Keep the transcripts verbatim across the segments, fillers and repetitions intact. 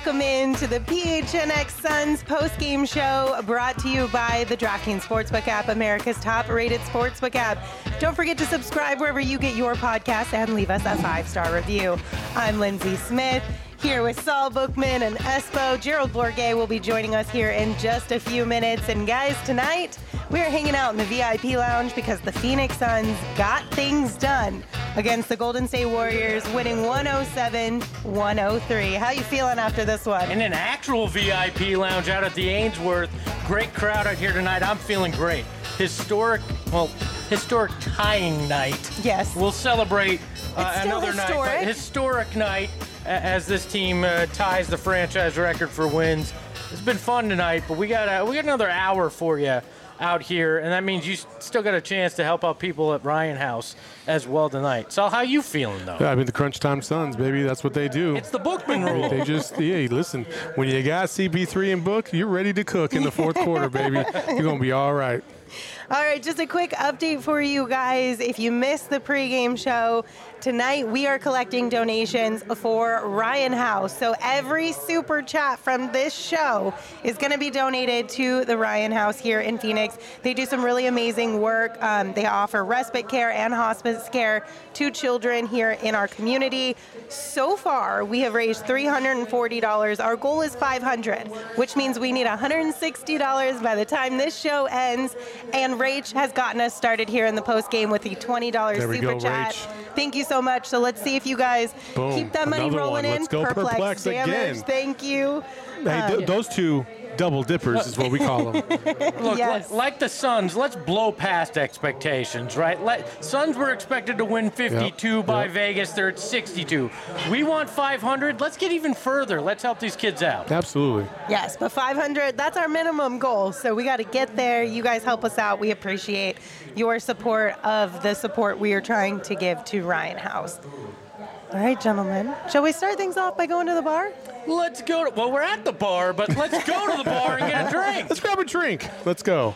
welcome in to the P H N X Suns post-game show brought to you by the DraftKings Sportsbook app, America's top-rated sportsbook app. Don't forget to subscribe wherever you get your podcasts and leave us a five-star review. I'm Lindsay Smith, here with Saul Bookman and Espo. Gerald Bourguet will be joining us here in just a few minutes. And guys, tonight we're hanging out in the V I P lounge because the Phoenix Suns got things done against the Golden State Warriors, winning one oh seven one oh three. How you feeling after this one? In an actual V I P lounge out at the Ainsworth. Great crowd out here tonight. I'm feeling great. Historic, well, historic tying night. Yes. We'll celebrate uh, It's still another historic. night. But historic night as this team uh, ties the franchise record for wins. It's been fun tonight, but we got uh, we got another hour for you out here, and that means you still got a chance to help out people at Ryan House as well tonight. So how you feeling, though? Yeah, I mean, the Crunch Time Suns, baby, that's what they do. It's the Bookman rule. They just, yeah, listen, when you got C P three and Book, you're ready to cook in the fourth quarter, baby. You're going to be all right. All right, just a quick update for you guys. If you missed the pregame show, tonight we are collecting donations for Ryan House. So every super chat from this show is going to be donated to the Ryan House here in Phoenix. They do some really amazing work. Um, they offer respite care and hospice care to children here in our community. So far, we have raised three hundred forty dollars. Our goal is five hundred dollars, which means we need one hundred sixty dollars by the time this show ends. And Rach has gotten us started here in the post game with the twenty dollars There we super go, chat. Rach. Thank you so much. So let's see if you guys Boom. keep that money Another rolling one. in. Let's go Perplex damage. again. Thank you. Hey, Uh, th- those two double dippers is what we call them. Look, Yes. li- like the Suns, let's blow past expectations, right? Let, Suns were expected to win fifty-two Yep, by yep. Vegas. They're at sixty-two. We want five hundred. Let's get even further. Let's help these kids out. Absolutely. Yes, but five hundred, that's our minimum goal. So we got to get there. You guys help us out. We appreciate your support of the support we are trying to give to Ryan House. All right, gentlemen. Shall we start things off by going to the bar? Let's go to, well, we're at the bar, but let's go to the bar and get a drink. Let's grab a drink. Let's go.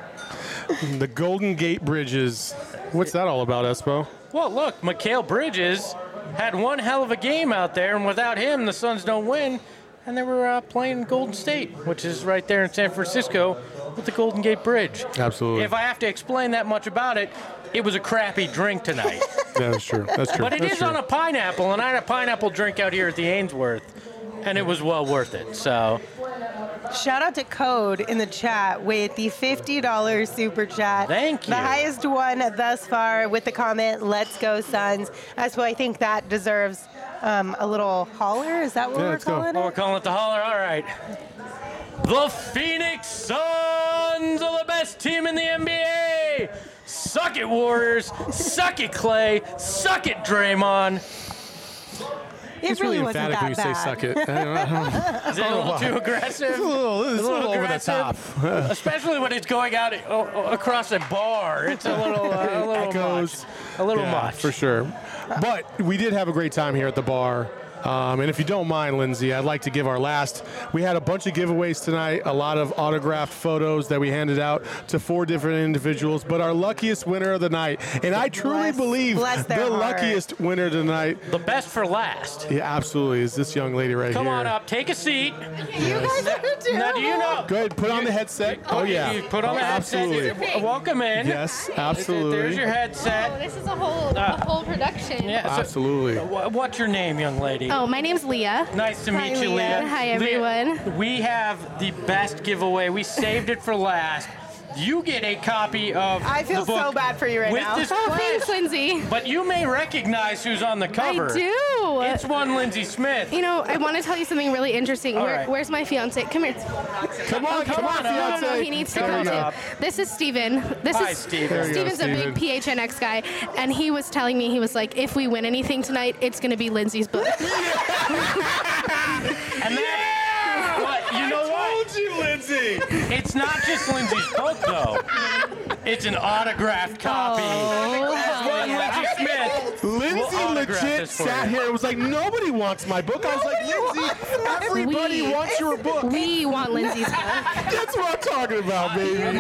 The Golden Gate Bridges. What's that all about, Espo? Well, look, Mikal Bridges had one hell of a game out there, and without him, the Suns don't win. And they were uh, playing Golden State, which is right there in San Francisco with the Golden Gate Bridge. Absolutely. If I have to explain that much about it, it was a crappy drink tonight. Yeah, that's true. That's true. But it That's is true. on a pineapple, and I had a pineapple drink out here at the Ainsworth, and it was well worth it. So Shout out to Code in the chat with the fifty dollars super chat. Thank you. The highest one thus far with the comment, "Let's go Suns." That's what I think that deserves um, a little holler. Is that what Yeah, we're let's go. calling oh, it? we're calling it the holler. All right. The Phoenix Suns are the best team in the N B A. Suck it, Warriors. Suck it, Clay. Suck it, Draymond. It It's really really wasn't emphatic when you that say bad. suck it. I don't know. Is it a little too aggressive? It's a little, it's a little over the aggressive. top. Especially when it's going out uh, across a bar. It's a little, uh, a little Echoes. much. A little Yeah, much. for sure. But we did have a great time here at the bar. Um, and if you don't mind, Lindsay, I'd like to give our last. We had a bunch of giveaways tonight, a lot of autographed photos that we handed out to four different individuals. But our luckiest winner of the night, and I truly Bless- believe bless their the heart. luckiest winner tonight, The best for last. yeah, absolutely, is this young lady right Come here. on up. Take a seat. You guys are terrible. Now, do you know? Go ahead, put on the headset. Oh, you- yeah. You put on the headset. Absolutely. Welcome in. Yes, There's absolutely. your Oh, headset. this is a whole Uh, a whole production. Yeah. so- Absolutely. wha- What's your name, young lady? Oh, my name's Leah. Nice to Hi, meet you, Leah. Leah. Hi, Leah, everyone. we have the best giveaway. We saved it for last. You get a copy of I feel the book so bad for you right with now. this Oh, pledge. thanks, Lindsay. But you may recognize who's on the cover. I do. It's one Lindsay Smith. You know, I want to tell you something really interesting. All Where, right. Where's my fiance? Come here. Come on, come on, on, No, no, no, fiance. he needs to There come you go. too. This is Steven. This Hi, is Steven. There you go, Steven's a Steven. big P H N X guy, and he was telling me, he was like, if we win anything tonight, it's going to be Lindsay's book. And that, what, you know what? Told you, Lindsay. It's not just Lindsay's book, though. It's an autographed copy. As one Lindsay Smith. Lindsay We'll autograph legit this for sat you. here and was like, nobody wants my book. I was like, Lindsay, everybody We- wants your book. We want Lindsay's book. That's what I'm talking about, You baby. guys,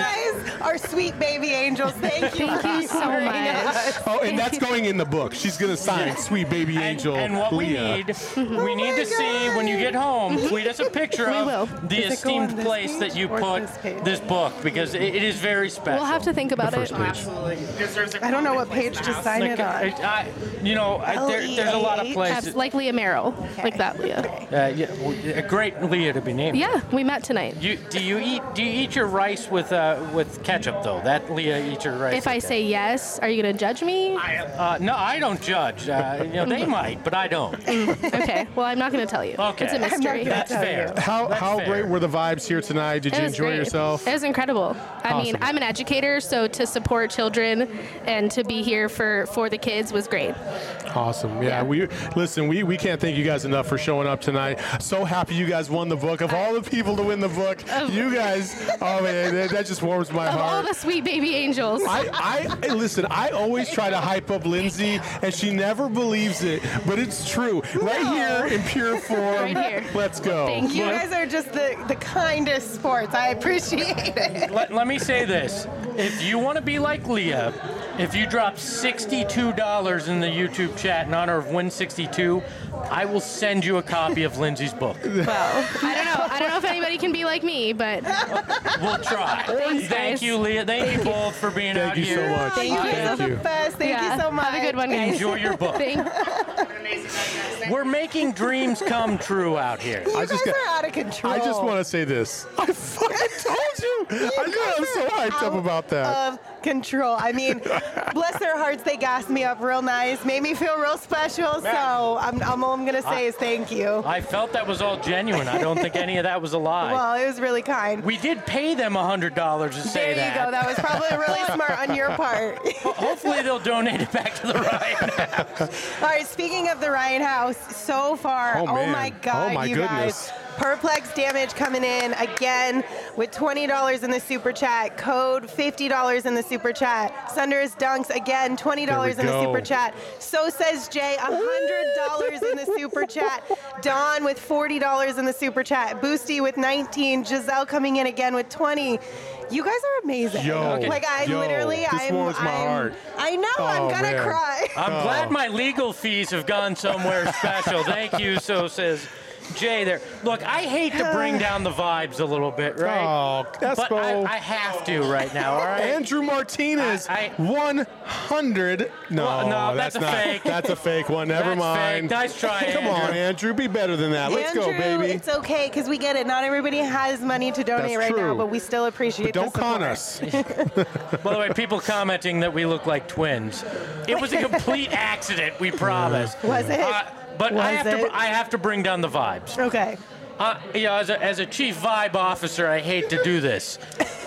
our sweet baby angels. Thank you. Thank you so for much. us. Oh, and that's going in the book. She's going to sign Sweet Baby And, Angel and what we Leah. need, we need to see when you get home, tweet us a picture We of will. the Does it go on esteemed this place page that you or put this page? this book, because it, it is very special. We'll have to think about it. Absolutely. Deserves a I don't know what prominent page place to in the sign Like, it on. it- I, you know, I, there, there's a lot of L E A H? places. Abs- like Leah Merrill, like that Leah. Uh, yeah, well, a great Leah to be named. Yeah, we met tonight. You, do you eat do you eat your rice with uh, with ketchup though? That Leah eats your rice. If I with say yes, are you gonna judge me? ketchup. uh, no, I don't judge. Uh, you know, they might, but I don't. Okay, well I'm not gonna tell you. Okay. It's a I'm not mystery. gonna That's tell fair. you. How That's how fair. great were the vibes here tonight? Did It you was enjoy great. yourself? It was incredible. I mean, Awesome. I'm an educator, so to support children and to be here for, for the kids was great. Awesome. Yeah, Yeah. we listen. We, we can't thank you guys enough for showing up tonight. So happy you guys won the book. Of all the people to win the book, you guys. Oh man, that, that just warms my Of all heart. the sweet baby angels. I, I listen. I always try to hype up Lindsay, and she never believes it, but it's true. Right here in pure form. Right here. Let's go. Thank You you. guys are just the, the kindest sports. I appreciate it. Let, let me say this. If you want to be like Leah, if you drop sixty-two dollars in the YouTube chat in honor of Win sixty-two, I will send you a copy of Lindsay's book. Well, I don't know. I don't know if anybody can be like me, but We'll try. Thanks, Thank guys. you, Leah. Thank you both for being Thank out you here. so much. Thank you. Thank You're you. the best. Thank yeah, you so much. have a good one, guys. Enjoy your book. Thank- An amazing night, guys. Thank We're making dreams come true out here. You I guys just got- are out of control. I just want to say this. I fucking told you. I know. I'm so hyped up about that. Of control. I mean, bless their hearts, they gassed me up real nice, made me feel real special. So I'm, I'm all I'm gonna say is thank you. I felt that was all genuine. I don't think any of that was a lie. Well, it was really kind. We did pay them one hundred dollars to There say you that. go. That was probably really smart on your part. Hopefully they'll donate it back to the Ryan House. All right, speaking of the Ryan House, so far, Oh, man. my God, Oh, my you goodness. guys. Perplex Damage coming in again with twenty dollars in the super chat. Code fifty dollars in the super chat. Sunder's Dunks again, twenty dollars There in we the go. super chat. So says Jay, one hundred dollars in the super chat. Don with forty dollars in the super chat. Boosty with nineteen. Giselle coming in again with twenty. You guys are amazing. Yo, like I yo, literally, this I'm, warms my I'm- heart. I know. Oh, I'm gonna man. cry. I'm glad my legal fees have gone somewhere special. Thank you, so says Jay there. Look, I hate to bring down the vibes a little bit, right? Oh, that's but I, cool. I have to right now, all right? Andrew Martinez, I- I- one hundred. No, Well, no, that's a not. fake. That's a fake one. Never That's mind. fake. Nice try, Come Andrew. on, Andrew. Be better than that. Let's Andrew, go, baby. it's okay because we get it. Not everybody has money to donate That's right now, true. but we still appreciate. But don't the con support. us. By the way, people commenting that we look like twins. It was a complete accident, we promise. Was it? Uh, but I Was have it? to I have to bring down the vibes. Okay. Uh, you know, as a, as a chief vibe officer, I hate to do this,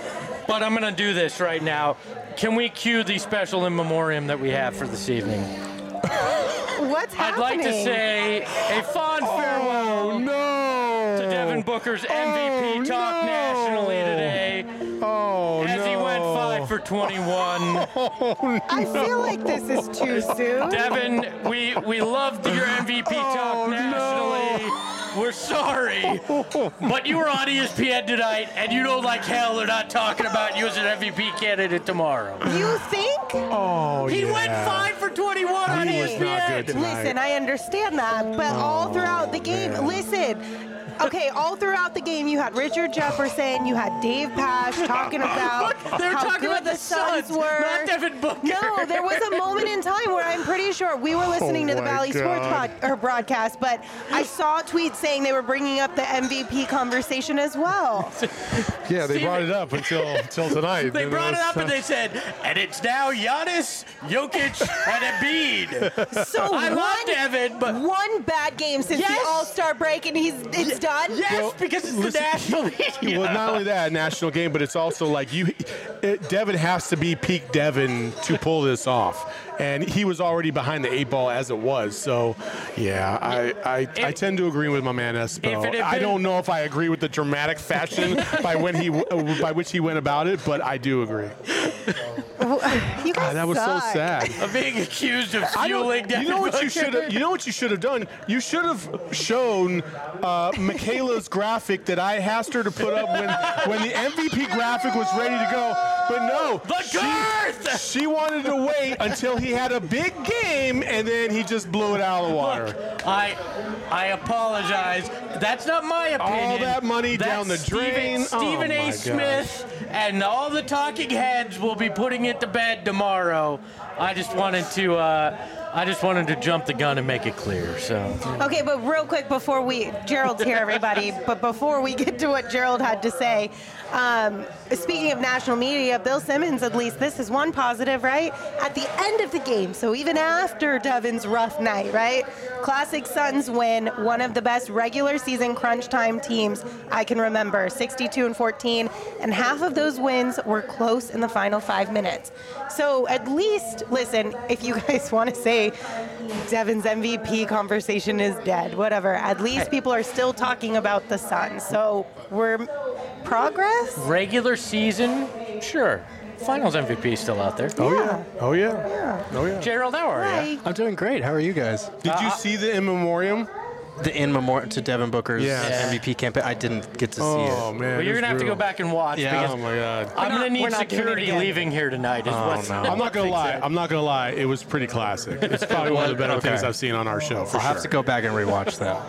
but I'm going to do this right now. Can we cue the special in memoriam that we have for this evening? What's I'd happening? like to say a fond farewell Oh no. to Devin Booker's M V P Oh, talk no. nationally today, Oh as no. he went five for twenty-one. Oh, I feel like this is too soon. Devin, we we loved your M V P talk Oh, nationally. We're sorry, but you were on E S P N tonight, and you know like hell they're not talking about you as an M V P candidate tomorrow. You think? Oh, He yeah. went five for twenty-one on He E was S P N. not good tonight. Listen, I understand that, but all throughout the game, man. listen. Okay, all throughout the game, you had Richard Jefferson, you had Dave Pash talking about They're how talking good about the the Suns Suns, were. not Devin Booker. No, there was a moment in time where I'm pretty sure we were listening Oh to the my Valley Sports God. pod, or broadcast, but I saw tweets saying they were bringing up the M V P conversation as well. Yeah, they Steven- brought it up until until tonight. They And brought it was- up and they said, and it's now Giannis, Jokic, and Embiid. So I one, love Devin, but one bad game since Yes. the All-Star break, and he's it's done. yes, Well, because it's listen- the national media. Well, not only that, national game, but it's also like you. It, Devin has to be peak Devin to pull this off, and he was already behind the eight ball as it was. So, yeah, I I, I tend to agree with my man Espo. If it had I been- don't know if I agree with the dramatic fashion by when he uh, by which he went about it, but I do agree. You guys God, that was so suck. sad. Of being accused of I don't- fueling Devin you know what you Booker. should have. You know what you should have done. You should have shown uh, Michaela's graphic that I asked her to put up when when the M V P graphic was ready to go. But no, The she, girth! she wanted to wait until he had a big game, and then he just blew it out of the water. Look, I I apologize. That's not my opinion. All that money That's down the Stephen, drain. Stephen Oh, A. my Smith and all the talking heads will be putting it to bed tomorrow. I just wanted to uh, I just wanted to jump the gun and make it clear. So Okay, but real quick before we, Gerald's here, everybody, but before we get to what Gerald had to say, um, speaking of national media, Bill Simmons, at least this is one positive, right? At the end of the game, so even after Devin's rough night, right? Classic Suns win, one of the best regular season crunch time teams I can remember, sixty-two and fourteen, and half of those wins were close in the final five minutes. So at least, listen, if you guys want to say Devin's M V P conversation is dead, whatever, at least people are still talking about the Suns. So we're progress? regular season, sure. Finals M V P still out there. Oh, Yeah. yeah. Oh, yeah. Oh, yeah. Gerald, how are you? Hi. I'm doing great. How are you guys? Did you see the in memoriam? The in memoriam to Devin Booker's Yes. M V P campaign. I didn't get to see Oh, it. man. Well, you're it's gonna have to go brutal. back and watch Yeah. because Oh, my God. I'm gonna we're need not doing it security again. leaving here tonight. Is what's, no. I'm not gonna lie. I'm not gonna lie. It was pretty classic. It's probably one of the better Okay. things I've seen on our show. For I'll sure. have to go back and rewatch that.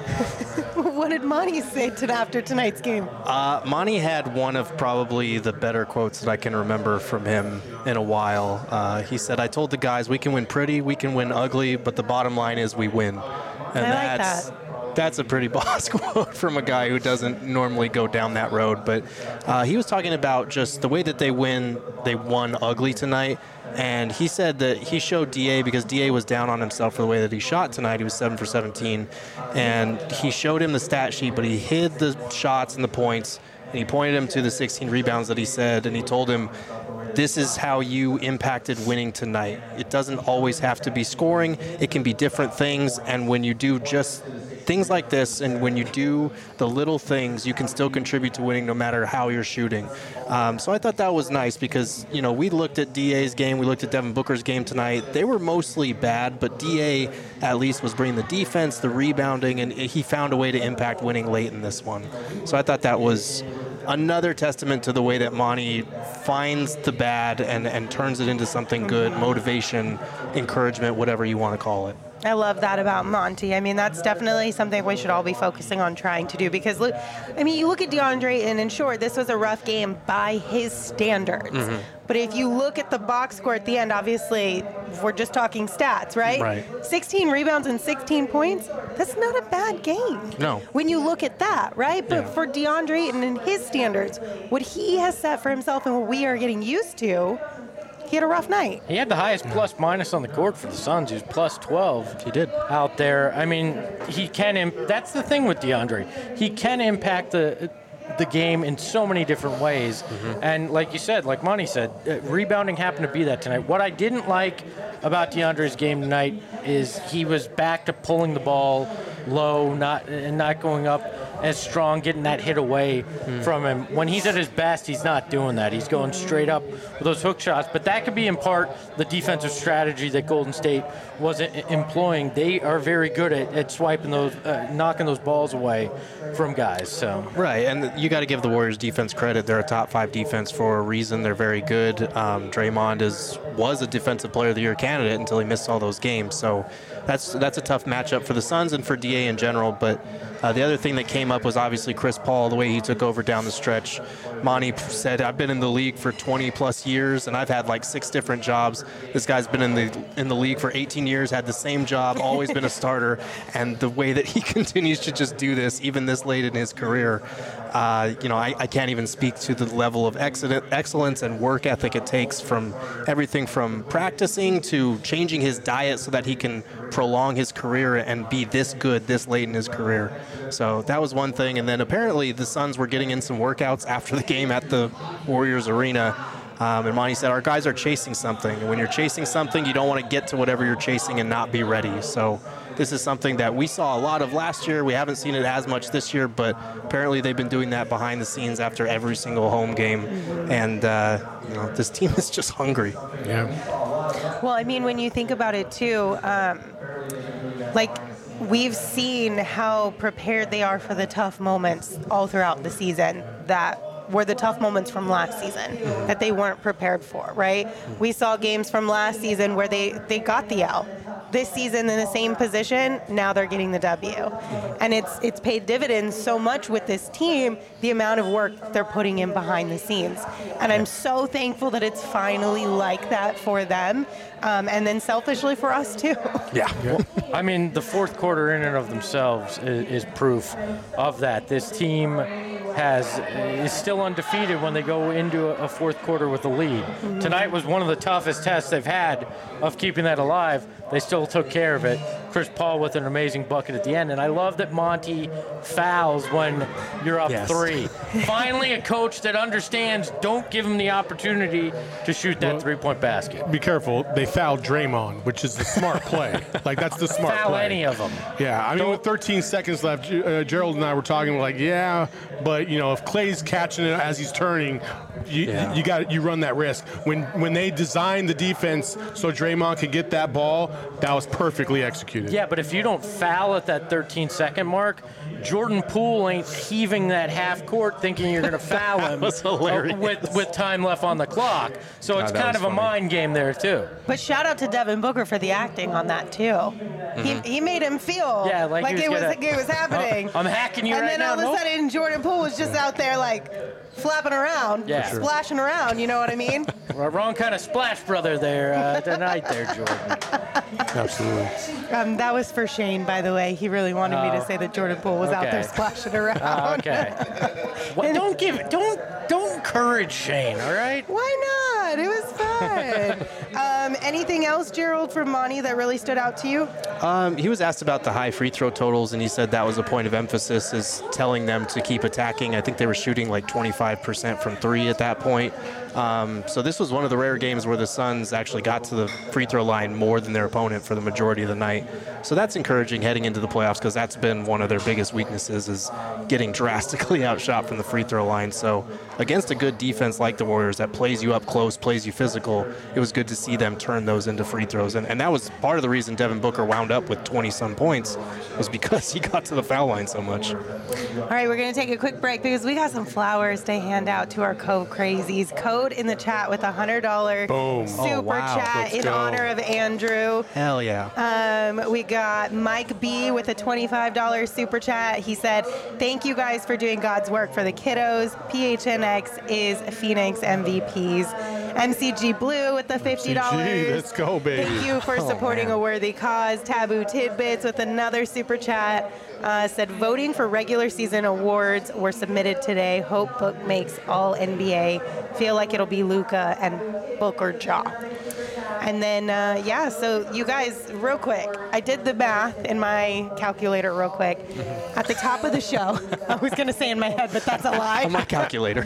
What did Monty say to, after tonight's game? Uh, Monty had one of probably the better quotes that I can remember from him in a while. Uh, he said, "I told the guys we can win pretty, we can win ugly, but the bottom line is we win." And I like that's that. that's a pretty boss quote from a guy who doesn't normally go down that road. But uh, he was talking about just the way that they win. They won ugly tonight. And he said that he showed D A because D A was down on himself for the way that he shot tonight. He was seven for seventeen. And he showed him the stat sheet, but he hid the shots and the points. And he pointed him to the sixteen rebounds that he said. And he told him, this is how you impacted winning tonight. It doesn't always have to be scoring. It can be different things. And when you do just things like this, and when you do the little things, you can still contribute to winning no matter how you're shooting. Um, so I thought that was nice because, you know, we looked at D A's game, we looked at Devin Booker's game tonight. They were mostly bad, but D A at least was bringing the defense, the rebounding, and he found a way to impact winning late in this one. So I thought that was another testament to the way that Monty finds the bad and, and turns it into something good, motivation, encouragement, whatever you want to call it. I love that about Monty. I mean, that's definitely something we should all be focusing on trying to do because, look, I mean, you look at DeAndre, and in short, this was a rough game by his standards. Mm-hmm. But if you look at the box score at the end, obviously, we're just talking stats, right? Right. sixteen rebounds and sixteen points, that's not a bad game. No. When you look at that, right? But Yeah. for DeAndre and in his standards, what he has set for himself and what we are getting used to, he had a rough night. He had the highest plus minus on the court for the Suns. He was plus twelve. He did. Out there. I mean, he can. Imp- that's the thing with DeAndre. He can impact the the game in so many different ways. Mm-hmm. And like you said, like Monty said, uh, rebounding happened to be that tonight. What I didn't like about DeAndre's game tonight is he was back to pulling the ball low, not and not going up as strong, getting that hit away mm. from him. When he's at his best, he's not doing that. He's going straight up with those hook shots. But that could be in part the defensive strategy that Golden State wasn't employing. They are very good at, at swiping those, uh, knocking those balls away from guys. So Right, and you got to give the Warriors defense credit. They're a top five defense for a reason. They're very good. Um, Draymond is was a defensive player of the year candidate until he missed all those games. So that's that's a tough matchup for the Suns and for D A in general. But uh, the other thing that came up was obviously Chris Paul, the way he took over down the stretch. Monty said, I've been in the league for twenty plus years and I've had like six different jobs. This guy's been in the in the league for eighteen years, had the same job, always been a starter. And the way that he continues to just do this, even this late in his career, uh, you know, I, I can't even speak to the level of excellence and work ethic it takes from everything from practicing to changing his diet so that he can prolong his career and be this good this late in his career. So that was one thing. And then apparently the Suns were getting in some workouts after the game at the Warriors arena. Um, and Monty said, our guys are chasing something. And when you're chasing something, you don't want to get to whatever you're chasing and not be ready. So this is something that we saw a lot of last year. We haven't seen it as much this year, but apparently they've been doing that behind the scenes after every single home game. And uh, you know, this team is just hungry. Yeah. Well, I mean, when you think about it too, um, like we've seen how prepared they are for the tough moments all throughout the season. That were the tough moments from last season that they weren't prepared for, right? We saw games from last season where they, they got the L. This season in the same position, now they're getting the W. And it's it's paid dividends so much with this team, the amount of work they're putting in behind the scenes. And I'm so thankful that it's finally like that for them. Um, and then selfishly for us too. Yeah. Well, I mean, the fourth quarter in and of themselves is, is proof of that. This team has is still undefeated when they go into a fourth quarter with a lead. Mm-hmm. Tonight was one of the toughest tests they've had of keeping that alive. They still took care of it. Chris Paul with an amazing bucket at the end. And I love that Monty fouls when you're up yes. three. Finally, a coach that understands, don't give him the opportunity to shoot that well, three-point basket. Be careful. They fouled Draymond, which is the smart play. Like, that's the smart Foul play. any of them. Yeah, I mean, don't, with thirteen seconds left, uh, Gerald and I were talking, we're like, yeah, but, you know, if Clay's catching it as he's turning, you yeah. you got you run that risk. When when they designed the defense so Draymond could get that ball, that was perfectly executed. Yeah, but if you don't foul at that thirteen-second mark, Jordan Poole ain't heaving that half court thinking you're going to foul him was hilarious. with with time left on the clock. So God, it's kind of funny. a mind game there too. But shout out to Devin Booker for the acting on that too. Mm-hmm. He he made him feel yeah, like, like was it was gonna, it was happening. I'm hacking you and right now. And then all nope. of a sudden Jordan Poole was just out there like flapping around, yeah. splashing around. You know what I mean? Wrong kind of splash brother there uh, tonight, there, Jordan. Absolutely. Um, that was for Shane, by the way. He really wanted uh, me to say that Jordan Poole was okay. out there splashing around. Uh, okay. Well, don't give, don't, don't encourage Shane. All right. Why not? It was fun. um, anything else, Gerald, from Monty that really stood out to you? Um, he was asked about the high free throw totals, and he said that was a point of emphasis, is telling them to keep attacking. I think they were shooting like twenty-five percent from three at that point. Um, so this was one of the rare games where the Suns actually got to the free throw line more than their opponent for the majority of the night. So that's encouraging heading into the playoffs, because that's been one of their biggest weaknesses, is getting drastically outshot from the free throw line. So against a good defense like the Warriors that plays you up close, plays you physical, it was good to see them turn those into free throws. And, and that was part of the reason Devin Booker wound up with twenty-some points, was because he got to the foul line so much. All right, we're going to take a quick break because we got some flowers to hand out to our Cove Crazies. Code in the chat with a one hundred dollars Boom. super oh, wow. chat Let's in go. honor of Andrew. Hell yeah. Um, we got Mike B with a twenty-five dollars super chat. He said, thank you guys for doing God's work for the kiddos. P H N X is Phoenix M V Ps. M C G Blue with the fifty dollars. M C G, let's go, baby. Thank you for Oh, supporting man. a worthy cause. Taboo Tidbits with another super chat. Uh, said voting for regular season awards were submitted today. Hope Book makes all N B A. Feel like it'll be Luka and Book or Ja. And then, uh, yeah, so you guys, real quick, I did the math in my calculator real quick. At the top of the show, I was going to say in my head, but that's a lie. On my calculator.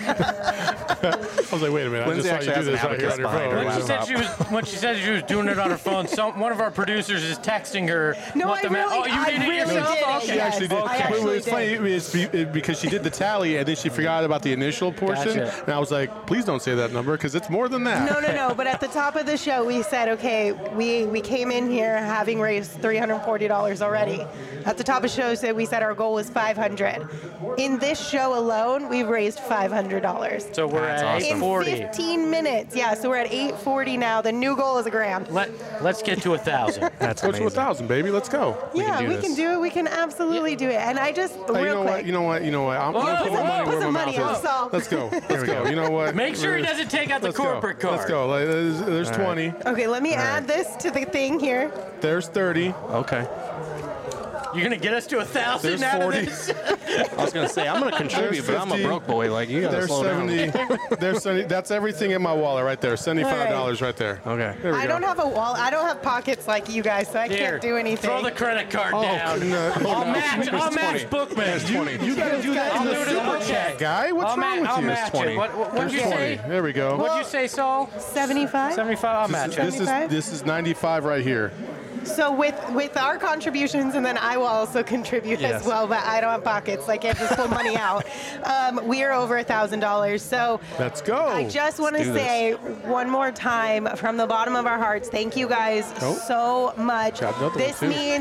I was like, wait a minute. Lindsay I just saw actually you do has this an right here on your abacus phone. behind her. When she said she was when she said she was doing it on her phone, some one of our producers is texting her. No, what I the ma- really- oh, you I did it really yourself? did it, Okay. She actually did. I But actually it's funny it's be- it- because she did the tally and then she forgot about the initial portion. Gotcha. And I was like, please don't say that number because it's more than that. No, no, no. But at the top of the show, we said, okay, we, we came in here having raised three hundred forty dollars already. At the top of the show, said we said our goal was five hundred dollars. In this show alone, we've raised five hundred dollars. So we're That's at awesome. eight In forty. fifteen minutes. Yeah, so we're at eight forty now. The new goal is a grand. Let Let's get to a thousand. That's Go to a amazing. thousand, baby. Let's go. Yeah, do we this. can do it. We can absolutely do it. And I just, real Hey, you know quick. what? You know what? You know what? I'm Whoa, going to put my whoa, money put where some my money mouth on is. Saul. Let's go. Let's go. You know what? Make sure he doesn't take out the Let's go. corporate card. Let's go. Like, There's, there's twenty. Okay, let me add this to the thing here. There's thirty. Okay. You're gonna get us to a thousand There's out forty. of this? I was going to say, I'm going to contribute, but I'm a fifty. broke boy. Like, you got to There's slow seventy. down. There's seventy. That's everything in my wallet right there. seventy-five dollars right there. Okay. There we I go. don't have a wall. I don't have pockets like you guys, so I Here, can't do anything. Throw the credit card Oh, down. no, hold I'll on. match. There's I'll match twenty. Bookman. There's twenty. You got to do that I'll in do the it in the super book. chat, guy. What's I'll wrong ma- I'll with you? match twenty. it. What, what, what'd you There's say? twenty. There we go. What'd you say, Saul? seventy-five? seventy-five. I'll match This it. is seventy-five? this is ninety-five right here. So with with our contributions, and then I will also contribute Yes. as well, but I don't have pockets, so I can't just pull money out. Um, we are over a thousand dollars. So Let's go. I just want to do this. say one more time from the bottom of our hearts, thank you guys Oh. so much. Got another one, This too. means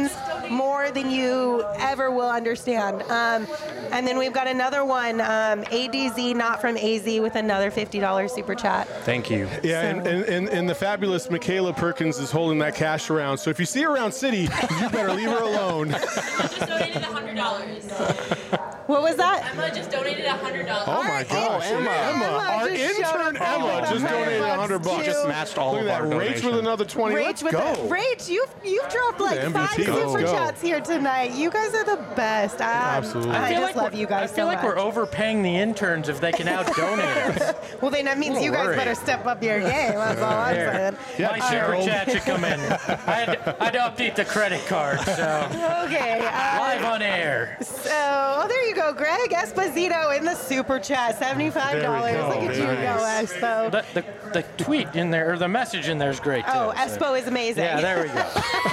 more than you ever will understand. Um, and then we've got another one, um, A D Z, not from A Z, with another fifty dollars super chat. Thank you. Yeah, and, and, and, and the fabulous Michaela Perkins is holding that cash around. So if you see her around City, you better leave her alone. Just donated one hundred dollars. What was that? Emma just donated one hundred dollars. Oh my gosh, Emma. Emma, our just showed intern up Emma with just one hundred donated one hundred bucks. too. Just matched all Look of at our that, Rach donation. with another twenty. Rach Let's with go. The, Rach, you've you've dropped like The five M V P. super Let's go. chats here tonight. You guys are the best. Um, Absolutely. I, I feel just like love we're- you guys I feel so like much. we're overpaying the interns if they can out donate us. Well, then that means Don't you guys worry. better step up your game. That's all I'm Here. saying. Yeah, My super Gerald. chat should come in. I had, to, I had to update the credit card, so Okay. live Uh, on air. so, oh, there you go, Greg Esposito in the super chat, seventy-five dollars. There we go. Look at you Very go, nice. Espo. The, the, the tweet in there, or the message in there is great, too. Oh, so- Espo is amazing. Yeah, there we go.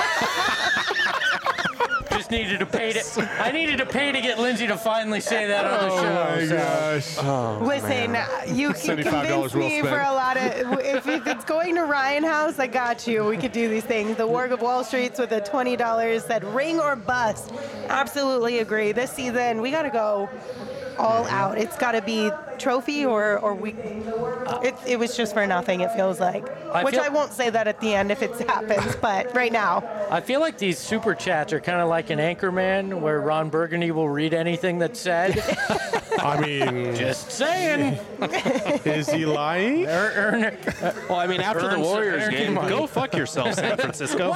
Just needed to pay to. I needed to pay to get Lindsay to finally say that on the Oh show. my so. gosh. Listen, you can seventy-five dollars convince well me spent. for a lot of. If, if it's going to Ryan House, I got you. We could do these things. The Warg of Wall Street's with a twenty dollars said ring or bust. Absolutely agree. This season, we got to go all out. It's got to be trophy or or we. It, it was just for nothing. It feels like. I Which feel- I won't say that at the end if it happens, but right now. I feel like these super chats are kind of like an Anchorman, where Ron Burgundy will read anything that's said. I mean, Just saying. is he lying? Er- earn- Well, I mean, after the Earn some Warriors energy game, money. go fuck yourself, San Francisco.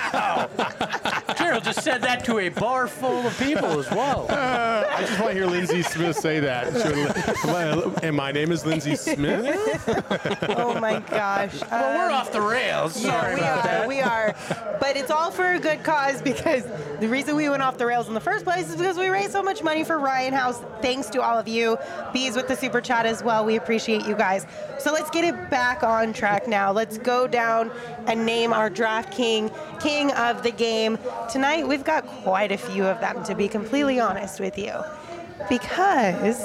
Gerald just said that to a bar full of people as well. I just want to hear Lindsay Smith say that. Should- And my name is Lindsay Smith. Oh my gosh. Well, we're Um, off the rails. Sorry yeah, we about are, that. We are. But it's all for a good cause because the reason we went off the rails in the first place is because we raised so much money for Ryan House. Thanks to all of you. Bees with the super chat as well. We appreciate you guys. So let's get it back on track now. Let's go down and name our draft king, king of the game. Tonight we've got quite a few of them, to be completely honest with you. Because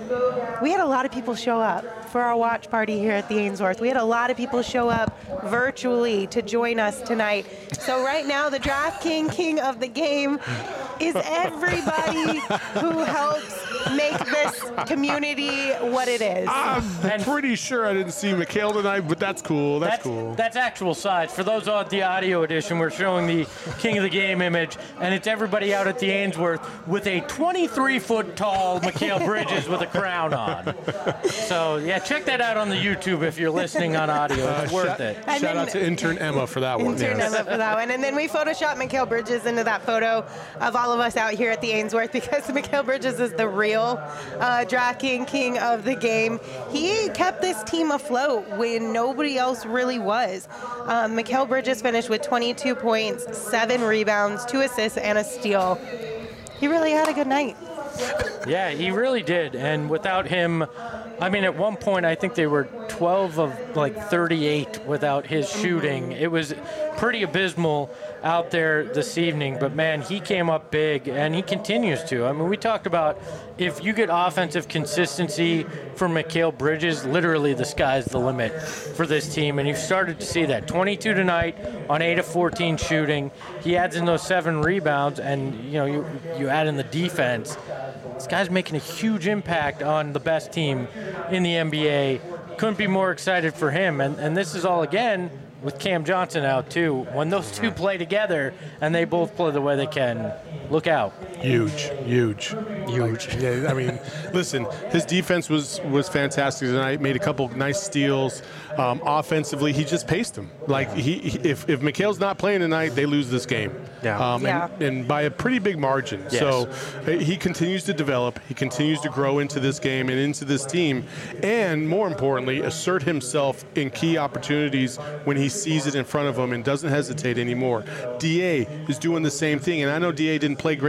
we had a lot of people show up for our watch party here at the Ainsworth. We had a lot of people show up virtually to join us tonight. So right now, the Draft King, king of the game, is everybody who helps make this community what it is. I'm And- pretty sure I didn't see Mikhail tonight, but that's cool. That's, That's, cool. that's actual size. For those on the audio edition, we're showing the King of the Game image, and it's everybody out at the Ainsworth with a twenty-three foot tall Mikhail Bridges with a crown on. So, yeah, check that out on the YouTube if you're listening on audio. It's Uh, worth shout, it. And shout then- out to intern Emma for that one. Intern yes. Emma for that one. And then we photoshopped Mikhail Bridges into that photo of all of us out here at the Ainsworth because Mikhail Bridges is the real uh, Draft King, king of the game. He kept this team afloat when nobody else really was. Um, Mikhail Bridges finished with twenty-two points, seven rebounds, two assists, and a steal. He really had a good night. Yeah, he really did. And without him, I mean, at one point, I think they were twelve of like thirty-eight without his shooting. It was pretty abysmal out there this evening. But man, he came up big, and he continues to. I mean, we talked about if you get offensive consistency from Mikhail Bridges, literally the sky's the limit for this team. And you've started to see that. twenty-two tonight on eight of fourteen shooting. He adds in those seven rebounds, and you know, you you add in the defense. This guy's making a huge impact on the best team in the N B A. Couldn't be more excited for him. And, and this is all, again, with Cam Johnson out, too. When those two play together and they both play the way they can, look out. Huge, huge, huge. Yeah, I mean, listen, his defense was was fantastic tonight. Made a couple nice steals. Um, offensively, he just paced them. Like he, he if if Mikhail's not playing tonight, they lose this game. Yeah. Um, Yeah. And, and by a pretty big margin. Yes. So uh, he continues to develop. He continues to grow into this game and into this team, and more importantly, assert himself in key opportunities when he sees it in front of him and doesn't hesitate anymore. D A is doing the same thing, and I know D A didn't play great tonight.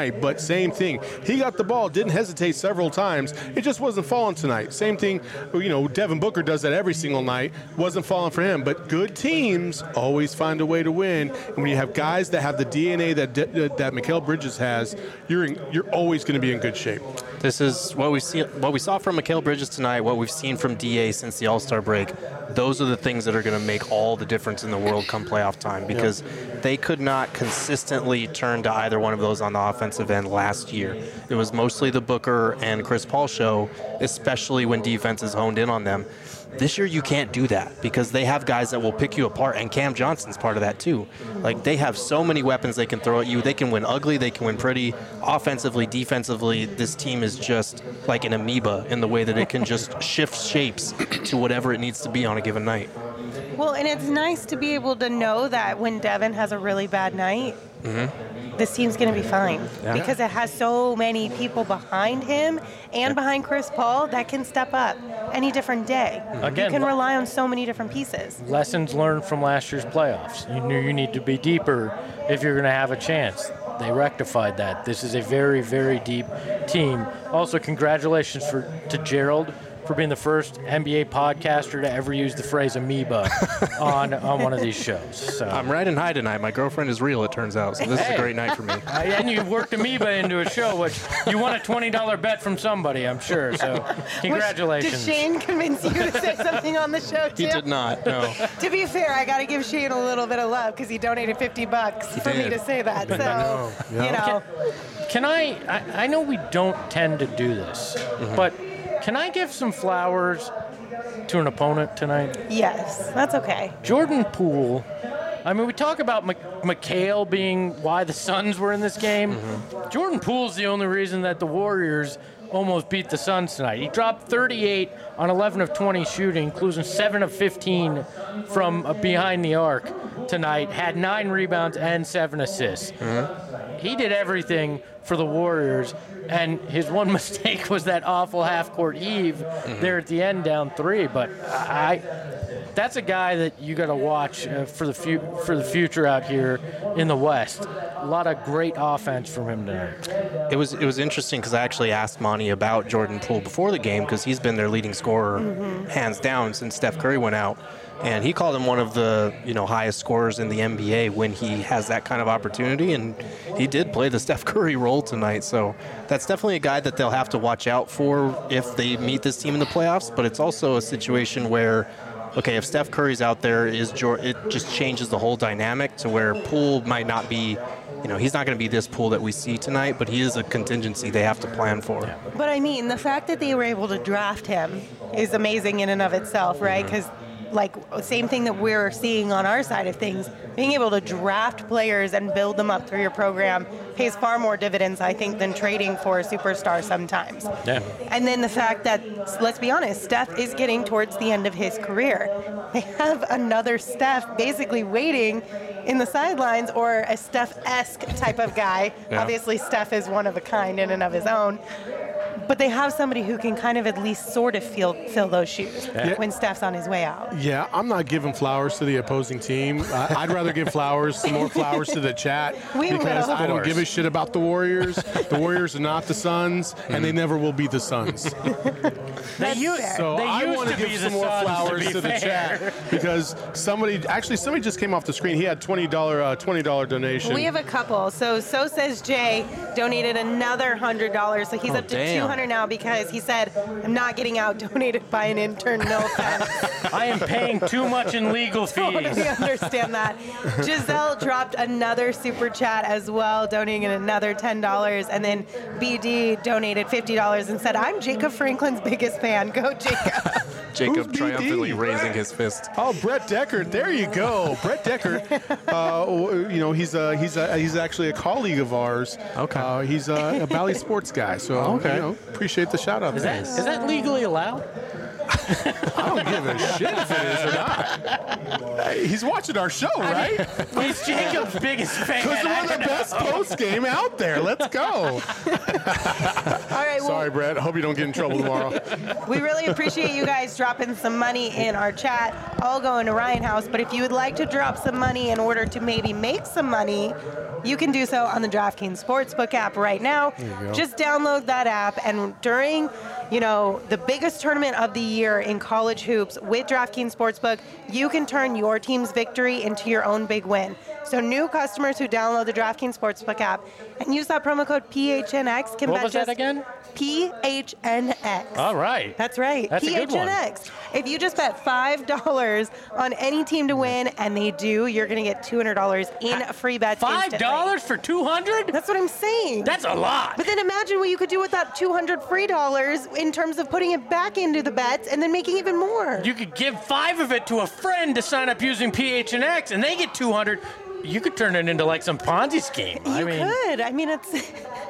tonight, but same thing. He got the ball, didn't hesitate several times. It just wasn't falling tonight. Same thing, you know, Devin Booker does that every single night. Wasn't falling for him. But good teams always find a way to win. And when you have guys that have the D N A that that Mikal Bridges has, you're in, you're always going to be in good shape. This is what we see, what we saw from Mikal Bridges tonight, what we've seen from D A since the All-Star break. Those are the things that are going to make all the difference in the world come playoff time, because yeah. they could not consistently turn to either one of those on the offensive end last year. It was mostly the Booker and Chris Paul show, especially when defenses honed in on them. This year you can't do that because they have guys that will pick you apart, and Cam Johnson's part of that too. Like, they have so many weapons they can throw at you. They can win ugly, they can win pretty. Offensively, defensively, this team is just like an amoeba in the way that it can just shift shapes to whatever it needs to be on a given night. Well, and it's nice to be able to know that when Devin has a really bad night, mm-hmm. this team's going to be fine yeah. because it has so many people behind him and yeah. behind Chris Paul that can step up any different day. Again, you can rely on so many different pieces. Lessons learned from last year's playoffs. You knew you need to be deeper if you're going to have a chance. They rectified that. This is a very, very deep team. Also, congratulations for to Gerald for being the first N B A podcaster to ever use the phrase amoeba on on one of these shows. So. I'm riding high tonight. My girlfriend is real, it turns out, so this hey. is a great night for me. Uh, and you worked amoeba into a show, which you won a twenty dollars bet from somebody, I'm sure. So congratulations. Which, did Shane convince you to say something on the show, too? He did not, no. To be fair, I got to give Shane a little bit of love because he donated fifty bucks he for did. me to say that. So, know. Yeah. you know. Can, can I, I, I know we don't tend to do this, mm-hmm. but can I give some flowers to an opponent tonight? Yes, that's okay. Jordan Poole. I mean, we talk about M- Mikal being why the Suns were in this game. Mm-hmm. Jordan Poole's the only reason that the Warriors almost beat the Suns tonight. He dropped thirty-eight on eleven of twenty shooting, including seven of fifteen from uh, behind the arc tonight, had nine rebounds and seven assists. Mm-hmm. He did everything for the Warriors, and his one mistake was that awful half-court heave mm-hmm. there at the end, down three. But I, that's a guy that you got to watch uh, for the fu- for the future out here in the West. A lot of great offense from him tonight. It was it was interesting because I actually asked Monty about Jordan Poole before the game because he's been their leading scorer mm-hmm. hands down since Steph Curry went out. And he called him one of the, you know, highest scorers in the N B A when he has that kind of opportunity, and he did play the Steph Curry role tonight. So that's definitely a guy that they'll have to watch out for if they meet this team in the playoffs. But it's also a situation where, okay, if Steph Curry's out there, is it just changes the whole dynamic to where Poole might not be, you know, he's not going to be this Poole that we see tonight, but he is a contingency they have to plan for. But I mean, the fact that they were able to draft him is amazing in and of itself, right? Because mm-hmm. like, same thing that we're seeing on our side of things, being able to draft players and build them up through your program pays far more dividends, I think, than trading for a superstar sometimes. Yeah. And then the fact that, let's be honest, Steph is getting towards the end of his career. They have another Steph basically waiting in the sidelines, or a Steph-esque type of guy. Yeah. Obviously, Steph is one of a kind in and of his own. But they have somebody who can kind of at least sort of fill, fill those shoes yeah. when Steph's on his way out. Yeah, I'm not giving flowers to the opposing team. Uh, I'd rather give flowers, some more flowers to the chat we because will. I don't give a shit about the Warriors. The Warriors are not the Suns, and they never will be the Suns. They used, so they I used want to give some more Suns, flowers to, to the fair. chat because somebody, actually somebody just came off the screen. He had twenty dollars uh, twenty dollars donation. We have a couple. So So Says Jay donated another one hundred dollars. So he's oh, up to damn. two hundred dollars now because he said, I'm not getting out donated by an intern, no offense. I am paying too much in legal fees. Totally understand that. Giselle dropped another super chat as well, donating another ten dollars. And then B D donated fifty dollars and said, I'm Jacob Franklin's biggest fan. Go, Jacob. Jacob triumphantly raising his fist. Oh, Brett Deckard. There you go. Brett Deckard. Uh, you know, he's a, he's a, he's actually a colleague of ours. Okay. Uh, he's a, a Bally Sports guy. So, okay. you know, appreciate the shout out. Is that, is that legally allowed? I don't give a shit if it is or not. He's watching our show, right? He's Jacob's biggest fan. Because we're the best post game out there. Let's go. All right. Well, Sorry, Brett. I hope you don't get in trouble tomorrow. we really appreciate you guys dropping some money in our chat, all going to Ryan House. But if you would like to drop some money in order to maybe make some money, you can do so on the DraftKings Sportsbook app right now. Just download that app, and during, you know, the biggest tournament of the year in college hoops with DraftKings Sportsbook, you can turn your team's victory into your own big win. So new customers who download the DraftKings Sportsbook app and use that promo code P H N X can What bet was just that again? P H N X. All right. That's right. That's a P good H N one. X. If you just bet five dollars on any team to win, and they do, you're going to get two hundred dollars in free bets Five dollars for two hundred? That's what I'm saying. That's a lot. But then imagine what you could do with that two hundred free dollars in terms of putting it back into the bets and then making even more. You could give five of it to a friend to sign up using P H N X, and they get two hundred. You could turn it into like some Ponzi scheme. You I mean, could. I mean, it's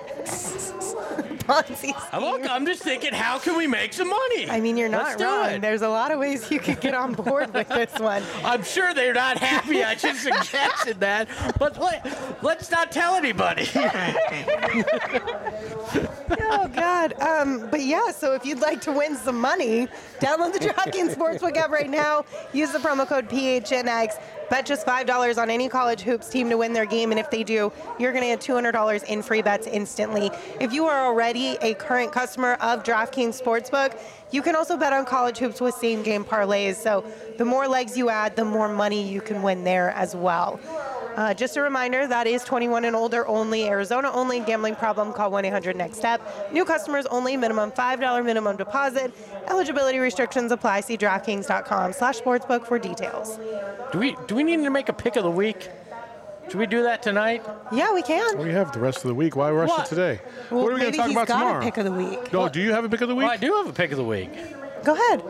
Ponzi scheme. Look, I'm just thinking, how can we make some money? I mean, you're Let's not do wrong. it. There's a lot of ways you could get on board with this one. I'm sure they're not happy. I just suggested that, but let, let's not tell anybody. Oh, God. Um, but yeah, so if you'd like to win some money, download the DraftKings Sportsbook app right now. Use the promo code P H N X. Bet just five dollars on any college hoops team to win their game, and if they do, you're going to get two hundred dollars in free bets instantly. If you are already a current customer of DraftKings Sportsbook, you can also bet on college hoops with same-game parlays. So the more legs you add, the more money you can win there as well. Uh, just a reminder, that is twenty-one and older only, Arizona only. Gambling problem, call one eight hundred next step. New customers only, minimum five dollars minimum deposit. Eligibility restrictions apply. See DraftKings.com slash sportsbook for details. Do we do we need to make a pick of the week? Should we do that tonight? Yeah, we can. We have the rest of the week. Why rush What? it today? Well, what are we going maybe to talk he's about got tomorrow? a pick of the week. No, do you have a pick of the week? Well, I do have a pick of the week. Go ahead.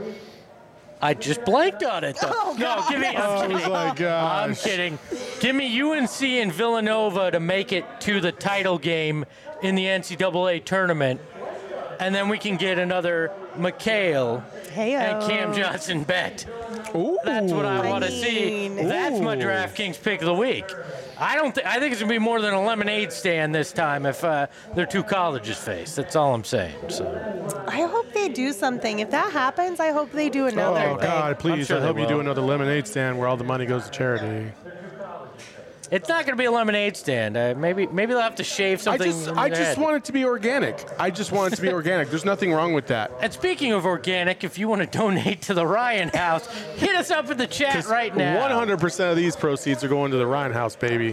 I just blanked on it, though. Oh, no, God. give me. Oh, I'm kidding. my gosh. I'm kidding. Give me U N C and Villanova to make it to the title game in the N C double A tournament, and then we can get another McHale Heyo. and Cam Johnson bet. Ooh. That's what I, I want to see. mean- That's my Ooh. DraftKings pick of the week. I don't. Th- I think it's gonna be more than a lemonade stand this time if uh, they're two colleges face. That's all I'm saying. So I hope they do something. If that happens, I hope they do another Oh, thing. God, please. sure I they hope you do will. another lemonade stand where all the money goes to charity. it's not gonna be a lemonade stand. Uh, maybe maybe they'll have to shave I something. just, in I their just head. want it to be organic. I just want it to be organic. There's nothing wrong with that. And speaking of organic, if you want to donate to the Ryan House, hit us up in the chat right now. one hundred percent of these proceeds are going to the Ryan House, baby.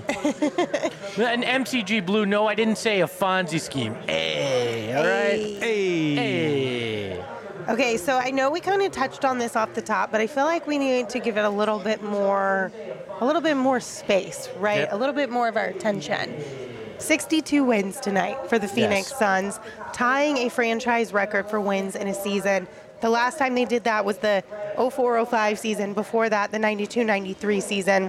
And M C G Blue, no, I didn't say a Fonzie scheme. Hey, all right? Hey. Hey. Okay, so I know we kind of touched on this off the top, but I feel like we need to give it a little bit more, a little bit more space, right? Yep. A little bit more of our attention. sixty-two wins tonight for the Phoenix Yes. Suns, tying a franchise record for wins in a season. The last time they did that was the oh four oh five season. Before that, the ninety-two ninety-three season.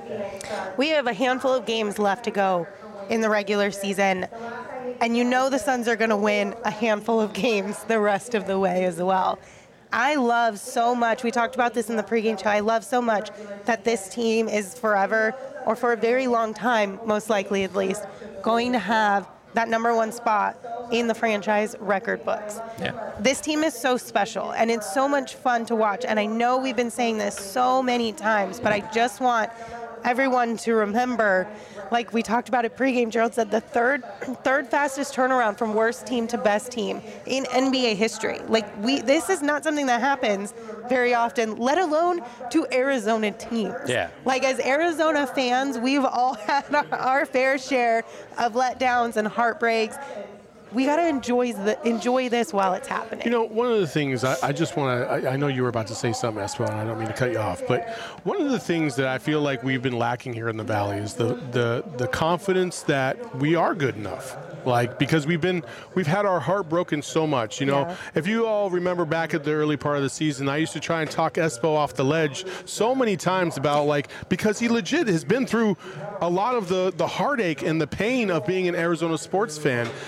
We have a handful of games left to go in the regular season, and you know the Suns are going to win a handful of games the rest of the way as well. I love so much, we talked about this in the pregame show, I love so much that this team is forever, or for a very long time, most likely at least, going to have that number one spot in the franchise record books. Yeah. This team is so special, and it's so much fun to watch. And I know we've been saying this so many times, but I just want everyone to remember, like we talked about at pregame, Gerald said the third third fastest turnaround from worst team to best team in N B A history. Like we, this is not something that happens very often, let alone to Arizona teams. Yeah. Like as Arizona fans, we've all had our, our fair share of letdowns and heartbreaks. We got to enjoy the enjoy this while it's happening. You know, one of the things I, I just want to, I, I know you were about to say something, Espo, and I don't mean to cut you off, but one of the things that I feel like we've been lacking here in the Valley is the, the, the confidence that we are good enough. Like, because we've been, we've had our heart broken so much, you know. Yeah. If you all remember back at the early part of the season, I used to try and talk Espo off the ledge so many times about, like, because he legit has been through a lot of the, the heartache and the pain of being an Arizona sports fan. And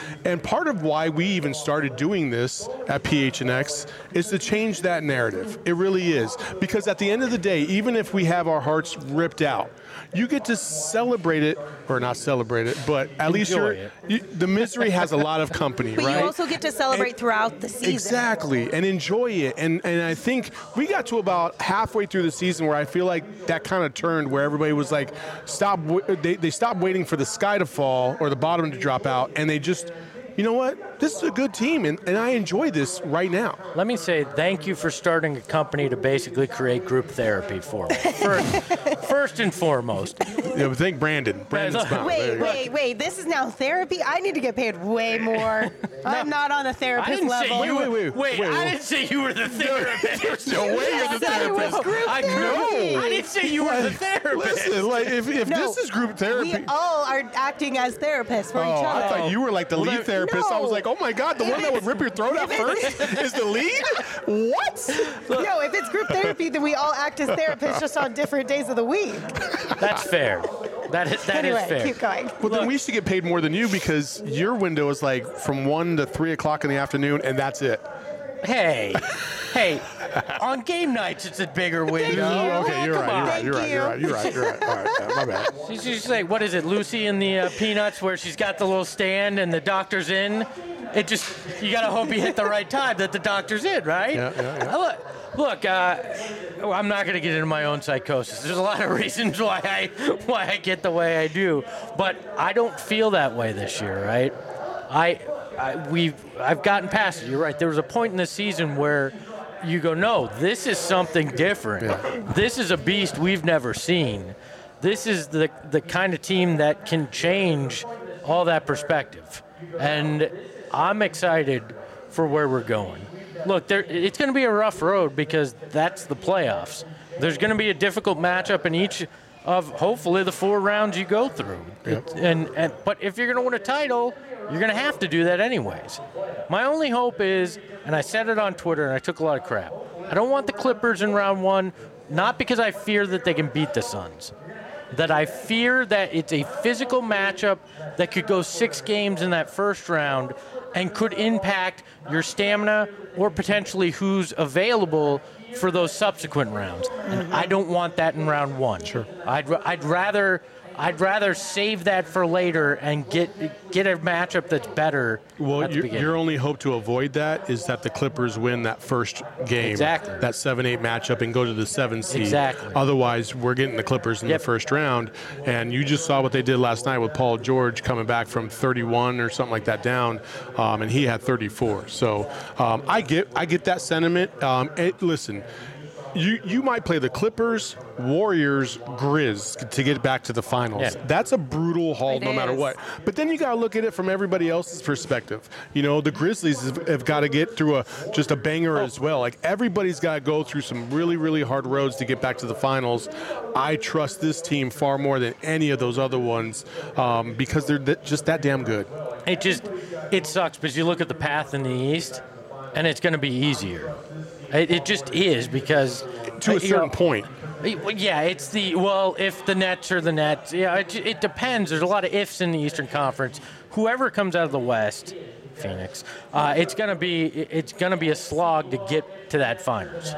part of why we even started doing this at P H N X is to change that narrative. It really is. Because at the end of the day, even if we have our hearts ripped out, you get to celebrate it, or not celebrate it, but at least Enjoy you're, it. you, the misery has a lot of company, But right? you also get to celebrate And- throughout the season. Exactly, and enjoy it. And and I think we got to about halfway through the season where I feel like that kind of turned, where everybody was like, stop. w- They they stopped waiting for the sky to fall or the bottom to drop out, and they just, you know what? This is a good team, and, and I enjoy this right now. Let me say thank you for starting a company to basically create group therapy for me. First, first and foremost. Yeah, but thank Brandon. Brandon's look, bound. There Wait, you go. wait, wait. This is now therapy? I need to get paid way more. I'm not on a I therapist didn't level. say you Wait, were. wait, wait, wait, I wait. didn't say you were the therapist. There's no way you're the I said it was therapist. group I therapy. I didn't say you were the therapist. Listen, like if, if No, this is group therapy. We all are acting as therapists for Oh, each other. I thought you were like the Well, lead there- therapist. I was No. like, oh my God, the one that would rip your throat out first is the lead? What? No, if it's group therapy, then we all act as therapists just on different days of the week. That's fair. That is that anyway, is fair. keep going. Well, then we should get paid more than you because your window is like from one to three o'clock in the afternoon, and that's it. Hey, hey, on game nights it's a bigger window. you. Okay, you're Come right. on. You're right. Thank You're right. You're right. You're right. You're right. All right. Yeah, my bad. She's just like, what is it, Lucy in the uh, Peanuts, where she's got the little stand and the doctor's in? It just, you gotta hope you hit the right time that the doctor's in, right? Yeah, yeah, yeah. Uh, Look, look uh, I'm not gonna get into my own psychosis. There's a lot of reasons why I why I get the way I do, but I don't feel that way this year, right? I, I we've I've gotten past it. You're right. There was a point in the season where you go, no, this is something different. Yeah. This is a beast we've never seen. This is the the kind of team that can change all that perspective. And I'm excited for where we're going. Look, there, it's going to be a rough road because that's the playoffs. There's going to be a difficult matchup in each of hopefully the four rounds you go through. It- and, and but if you're going to win a title, you're going to have to do that anyways. My only hope is, and I said it on Twitter and I took a lot of crap, I don't want the Clippers in round one, not because I fear that they can beat the Suns, that I fear that it's a physical matchup that could go six games in that first round and could impact your stamina or potentially who's available for those subsequent rounds. And I don't want that in round one. Sure. I'd, I'd rather I'd rather save that for later and get get a matchup that's better Well, at the your, beginning. your only hope to avoid that is that the Clippers win that first game, Exactly. that seven eight matchup, and go to the seven seed. Exactly. Otherwise, we're getting the Clippers in Yep. the first round. And you just saw what they did last night with Paul George coming back from thirty-one or something like that down, um, and he had thirty-four. So um, I get I get that sentiment. Um, it, listen. You you might play the Clippers, Warriors, Grizz to get back to the finals. Yeah. That's a brutal haul It no matter is. what. But then you got to look at it from everybody else's perspective. You know, the Grizzlies have, have got to get through a just a banger as well. Like everybody's got to go through some really really hard roads to get back to the finals. I trust this team far more than any of those other ones um, because they're th- just that damn good. It just, it sucks because you look at the path in the East, and it's going to be easier. It, it just is because To a you certain know, point. it- Yeah, it's the well, if the Nets are the Nets. Yeah, it, it depends. There's a lot of ifs in the Eastern Conference. Whoever comes out of the West, Phoenix, uh, it's gonna be it's gonna be a slog to get to that finals.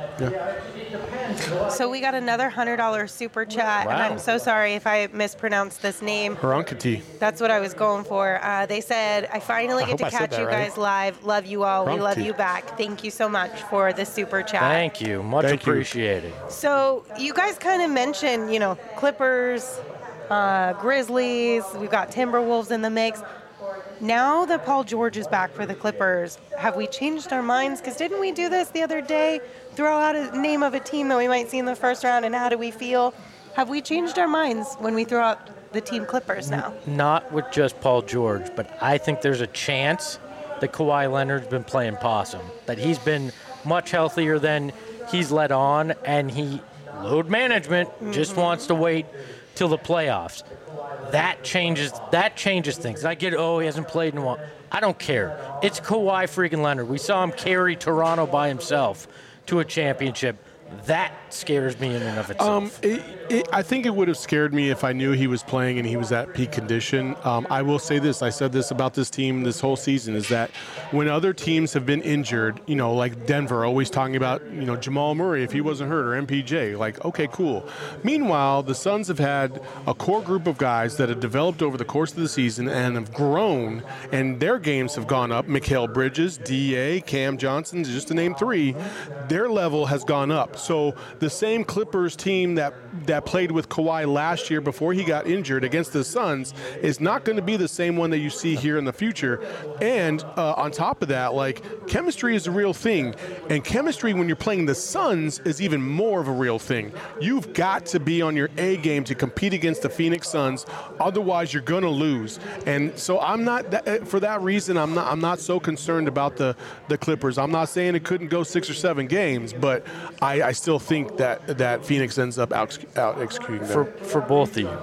So we got another one hundred dollars super chat, and Wow. I'm so sorry if I mispronounced this name. Harankati. That's what I was going for. Uh, they said, I finally I get to hope I said catch that you right. guys live. Love you all. We love Rumpty. you back. Thank you so much for the super chat. Thank you, much Thank you. appreciated. So you guys kind of mentioned, you know, Clippers, uh, Grizzlies. We've got Timberwolves in the mix. Now that Paul George is back for the Clippers, have we changed our minds? Because didn't we do this the other day? Throw out a name of a team that we might see in the first round, and how do we feel? Have we changed our minds when we throw out the team Clippers now? Not with just Paul George, but I think there's a chance that Kawhi Leonard's been playing possum, that he's been much healthier than he's let on, and he, load management, just wants to wait till the playoffs. That changes that changes things. I get, oh, he hasn't played in a while. I don't care. It's Kawhi freaking Leonard. We saw him carry Toronto by himself to a championship. That scares me in and of itself. Um, it, it, I think it would have scared me if I knew he was playing and he was at peak condition. Um, I will say this. I said this about this team this whole season is that when other teams have been injured, you know, like Denver, always talking about, you know, Jamal Murray, if he wasn't hurt, or M P J, like, okay, cool. Meanwhile, the Suns have had a core group of guys that have developed over the course of the season and have grown, and their games have gone up. Mikal Bridges, D A, Cam Johnson, just to name three, their level has gone up. So the same Clippers team that that played with Kawhi last year before he got injured against the Suns is not going to be the same one that you see here in the future. And uh, on top of that, like, chemistry is a real thing. And chemistry when you're playing the Suns is even more of a real thing. You've got to be on your A game to compete against the Phoenix Suns. Otherwise, you're going to lose. And so I'm not, that, for that reason, I'm not I'm not so concerned about the, the Clippers. I'm not saying it couldn't go six or seven games, but I, I still think that, that Phoenix ends up out, out executing them. For, for both of you,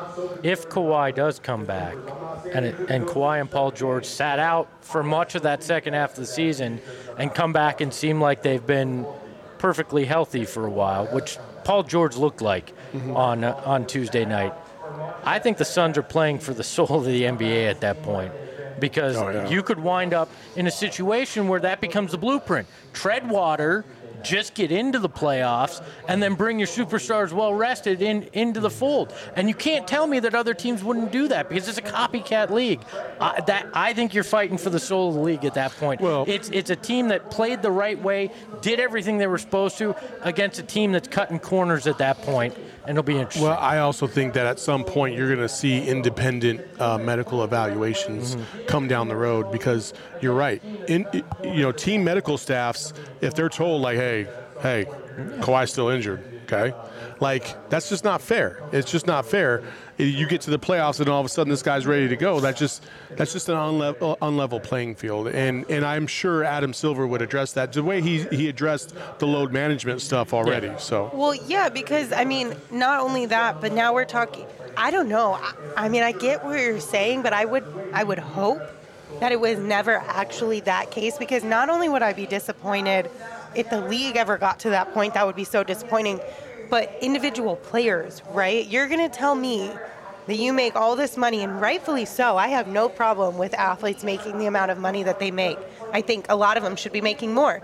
if Kawhi does come back, and it, and Kawhi and Paul George sat out for much of that second half of the season and come back and seem like they've been perfectly healthy for a while, which Paul George looked like mm-hmm. on uh, on Tuesday night, I think the Suns are playing for the soul of the N B A at that point, because oh, yeah. you could wind up in a situation where that becomes the blueprint. Tread water, just get into the playoffs, and then bring your superstars well rested in into the fold. And you can't tell me that other teams wouldn't do that, because it's a copycat league. Uh, that I think you're fighting for the soul of the league at that point. Well, it's it's a team that played the right way, did everything they were supposed to, against a team that's cutting corners at that point, and it'll be interesting. Well, I also think that at some point you're going to see independent uh, medical evaluations mm-hmm. come down the road, because you're right. In you know, team medical staffs, if they're told like, hey, hey, Kawhi's still injured, okay? Like, that's just not fair. It's just not fair. You get to the playoffs and all of a sudden this guy's ready to go. That's just that's just an unlevel, unlevel playing field. And and I'm sure Adam Silver would address that the way he, he addressed the load management stuff already. Yeah. So Well, yeah, because, I mean, not only that, but now we're talking, I don't know. I, I mean, I get what you're saying, but I would I would hope that it was never actually that case, because not only would I be disappointed if the league ever got to that point, that would be so disappointing, but individual players, right? You're going to tell me that you make all this money, and rightfully so. I have no problem with athletes making the amount of money that they make. I think a lot of them should be making more.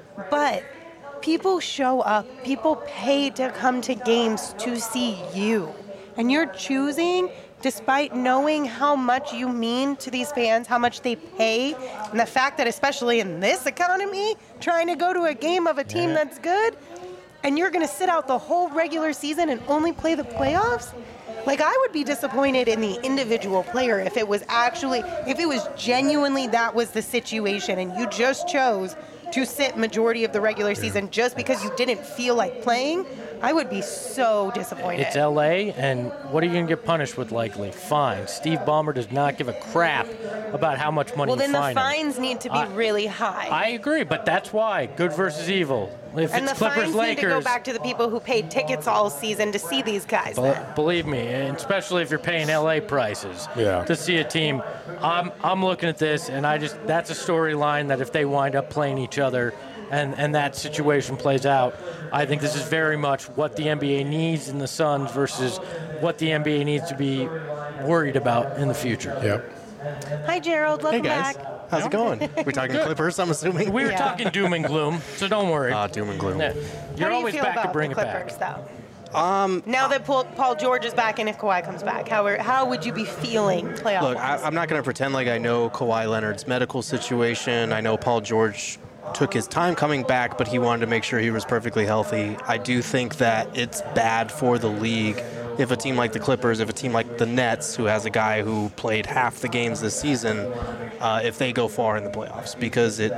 But people show up, people pay to come to games to see you. And you're choosing, despite knowing how much you mean to these fans, how much they pay, and the fact that especially in this economy, trying to go to a game of a team yeah. that's good, and you're going to sit out the whole regular season and only play the playoffs? Like, I would be disappointed in the individual player if it was actually, if it was genuinely that was the situation and you just chose to sit majority of the regular season just because you didn't feel like playing. I would be so disappointed. It's L A, and what are you going to get punished with likely? Fines. Steve Ballmer does not give a crap about how much money well, you fine Well, then the him. fines need to be I, really high. I agree, but that's why. Good versus evil. If and it's the Clippers, fines Lakers, need to go back to the people who paid tickets all season to see these guys. Be- believe me, and especially if you're paying L A prices yeah. to see a team. I'm I'm looking at this, and I just that's a storyline that if they wind up playing each other, and, and that situation plays out, I think this is very much what the N B A needs in the Suns versus what the N B A needs to be worried about in the future. Yep. Hi, Gerald. Welcome hey guys. back. How's it going? We're talking Clippers, I'm assuming. We were yeah. talking doom and gloom, so don't worry. Ah, uh, doom and gloom. Yeah. You're how always do you feel back about to bring the it Clippers, back. Though? Um, now that Paul, Paul George is back and if Kawhi comes back, how are, how would you be feeling playoff? Look, I, I'm not going to pretend like I know Kawhi Leonard's medical situation. I know Paul George took his time coming back, but he wanted to make sure he was perfectly healthy. I do think that it's bad for the league if a team like the Clippers, if a team like the Nets, who has a guy who played half the games this season, uh, if they go far in the playoffs, because it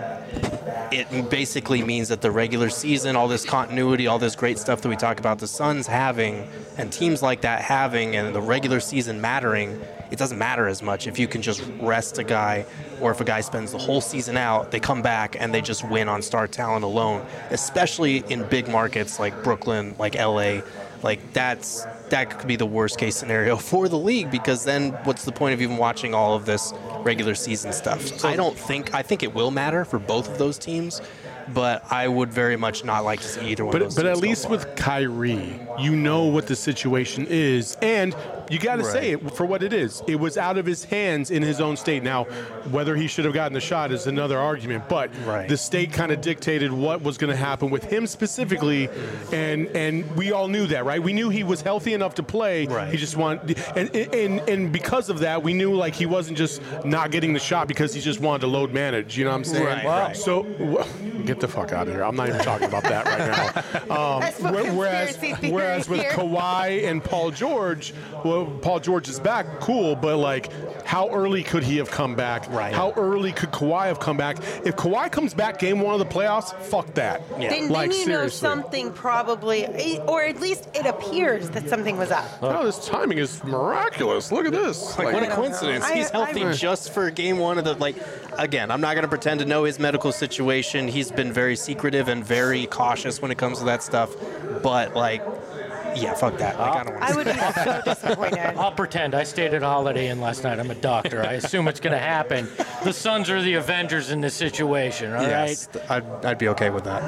it basically means that the regular season, all this continuity, all this great stuff that we talk about the Suns having, and teams like that having, and the regular season mattering, it doesn't matter as much if you can just rest a guy, or if a guy spends the whole season out, they come back and they just win on star talent alone, especially in big markets like Brooklyn, like L A. Like, that's that could be the worst case scenario for the league, because then what's the point of even watching all of this regular season stuff? So I don't think I think it will matter for both of those teams. but I would very much not like to see either one But of those but at teams go least far. with Kyrie, you know what the situation is, and you got to Right. say it for what it is. It was out of his hands in his own state. Now, whether he should have gotten the shot is another argument, but Right. the state kind of dictated what was going to happen with him specifically, and and we all knew that, right? We knew he was healthy enough to play. Right. He just wanted, and, and and because of that, we knew like he wasn't just not getting the shot because he just wanted to load manage. You know what I'm saying? Right, right. So w- get the fuck out of here. I'm not even talking about that right now. Um, That's what whe- whereas, conspiracy theory whereas with here. Kawhi and Paul George, well, Paul George is back, cool, but like, how early could he have come back? Right. How early could Kawhi have come back? If Kawhi comes back game one of the playoffs, fuck that. Yeah. Then, Like, then you know seriously. something probably, or at least it appears that something was up. Oh, this timing is miraculous. Look at this. Like, what a don't coincidence. know. I- He's healthy I- just for game one of the, like, again, I'm not going to pretend to know his medical situation. He's been very secretive and very cautious when it comes to that stuff. But, like, yeah, fuck that. Like, I don't want I to. would be so disappointed. I'll pretend. I stayed at Holiday Inn last night. I'm a doctor. I assume it's going to happen. The Suns are the Avengers in this situation, all right? Yes, I'd, I'd be okay with that.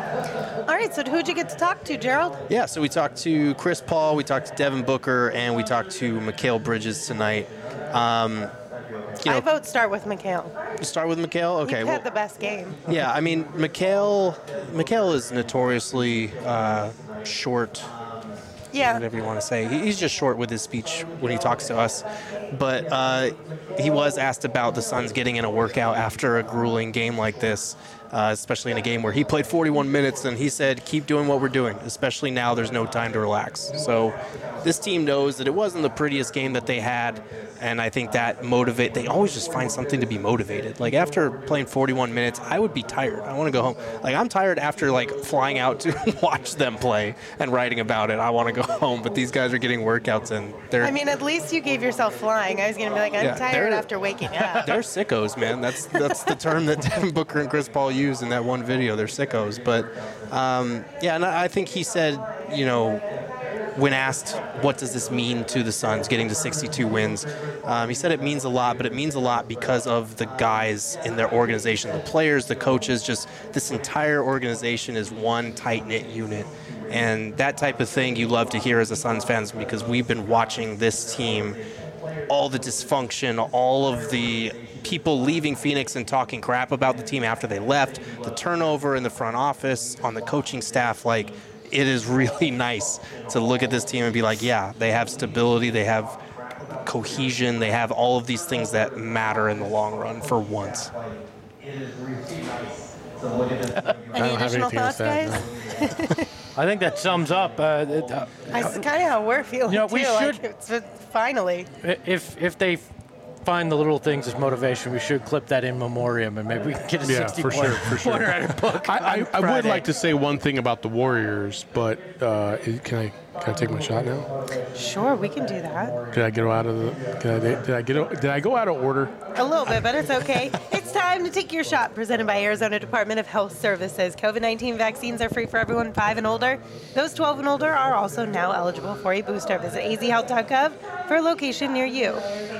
All right, so who'd you get to talk to, Gerald? Yeah, so we talked to Chris Paul, we talked to Devin Booker, and we talked to Mikal Bridges tonight. Um, you know, I vote start with Mikal. start with Mikal? Okay. He well, had the best game. yeah, I mean, Mikal, Mikal is notoriously uh, short, Yeah. whatever you want to say. He- He's just short with his speech when he talks to us. But uh, he was asked about the Suns getting in a workout after a grueling game like this, uh, especially in a game where he played forty-one minutes, and he said, keep doing what we're doing, especially now there's no time to relax. So this team knows that it wasn't the prettiest game that they had, and I think that motivate. They always just find something to be motivated. Like after playing forty-one minutes, I would be tired. I want to go home. Like I'm tired after like flying out to watch them play and writing about it. I want to go home, but these guys are getting workouts and they're I mean, at least you gave yourself flying. I was going to be like, I'm Yeah, tired they're- after waking up. they're sickos, man. That's that's the term that Devin Booker and Chris Paul used in that one video. They're sickos. But um, yeah, and I I think he said, you know, when asked what does this mean to the Suns getting to sixty-two wins, um, he said it means a lot, but it means a lot because of the guys in their organization, the players, the coaches, just this entire organization is one tight-knit unit. And that type of thing you love to hear as a Suns fans because we've been watching this team, all the dysfunction, all of the people leaving Phoenix and talking crap about the team after they left, the turnover in the front office, on the coaching staff, like it is really nice to look at this team and be like, yeah, they have stability, they have cohesion, they have all of these things that matter in the long run for once. Any don't have additional anything to thoughts, say, guys? I think that sums up. Uh, it- uh, That's kind of how we're feeling, You know, we too. Like, should- it's, uh, finally. if if they find the little things as motivation, we should clip that in memoriam, and maybe we can get a Yeah, sixty for pointer, sure, for sure. pointer at a book. I, on I, I would Friday. like to say one thing about the Warriors, but uh, can I can I take my shot now? Sure, we can do that. Did I get out of the? Did I, did I get? Did I go out of order? A little bit, but it's okay. It's time to take your shot, presented by Arizona Department of Health Services. COVID nineteen vaccines are free for everyone five and older. Those twelve and older are also now eligible for a booster. Visit a z health dot gov for a location near you.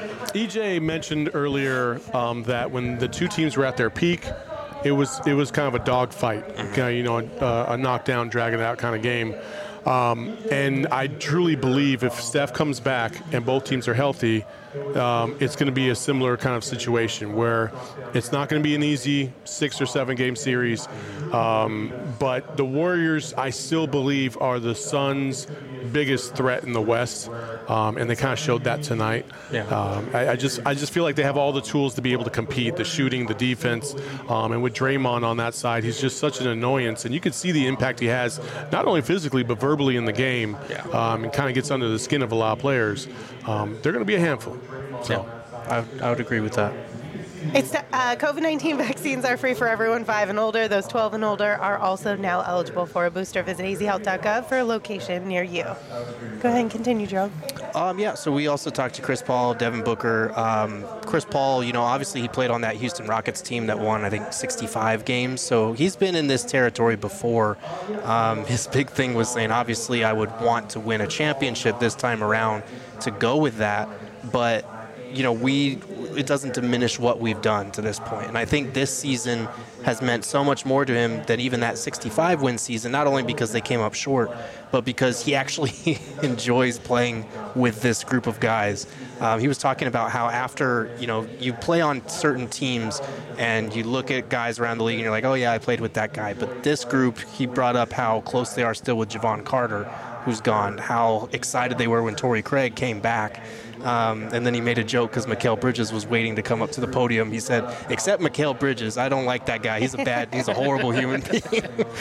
E J mentioned earlier um, that when the two teams were at their peak, it was it was kind of a dogfight, okay, you know, a, a knockdown, dragging it out kind of game. Um, and I truly believe if Steph comes back and both teams are healthy, um, it's going to be a similar kind of situation where it's not going to be an easy six or seven game series. Um, but the Warriors, I still believe, are the Suns' biggest threat in the West, um, and they kind of showed that tonight. Yeah. Um, I, I just I just feel like they have all the tools to be able to compete, the shooting, the defense, um, and with Draymond on that side, he's just such an annoyance, and you can see the impact he has, not only physically but verbally in the game, Yeah. um, and kind of gets under the skin of a lot of players. Um, they're going to be a handful. So. I, I would agree with that. It's uh, COVID nineteen vaccines are free for everyone five and older. Those twelve and older are also now eligible for a booster. Visit a z health dot gov for a location near you. Go ahead and continue, Joe. Um, yeah, so we also talked to Chris Paul, Devin Booker. Um, Chris Paul, you know, obviously he played on that Houston Rockets team that won, I think, sixty-five games. So he's been in this territory before. Um, his big thing was saying, obviously, I would want to win a championship this time around to go with that. But, you know, we it doesn't diminish what we've done to this point. And I think this season has meant so much more to him than even that sixty-five win season, not only because they came up short, but because he actually enjoys playing with this group of guys. Um, he was talking about how after, you know, you play on certain teams and you look at guys around the league and you're like, oh yeah, I played with that guy. But this group, he brought up how close they are still with Javon Carter, who's gone, how excited they were when Torrey Craig came back. Um, and then he made a joke because Mikal Bridges was waiting to come up to the podium. He said, except Mikal Bridges, I don't like that guy. He's a bad, he's a horrible human being.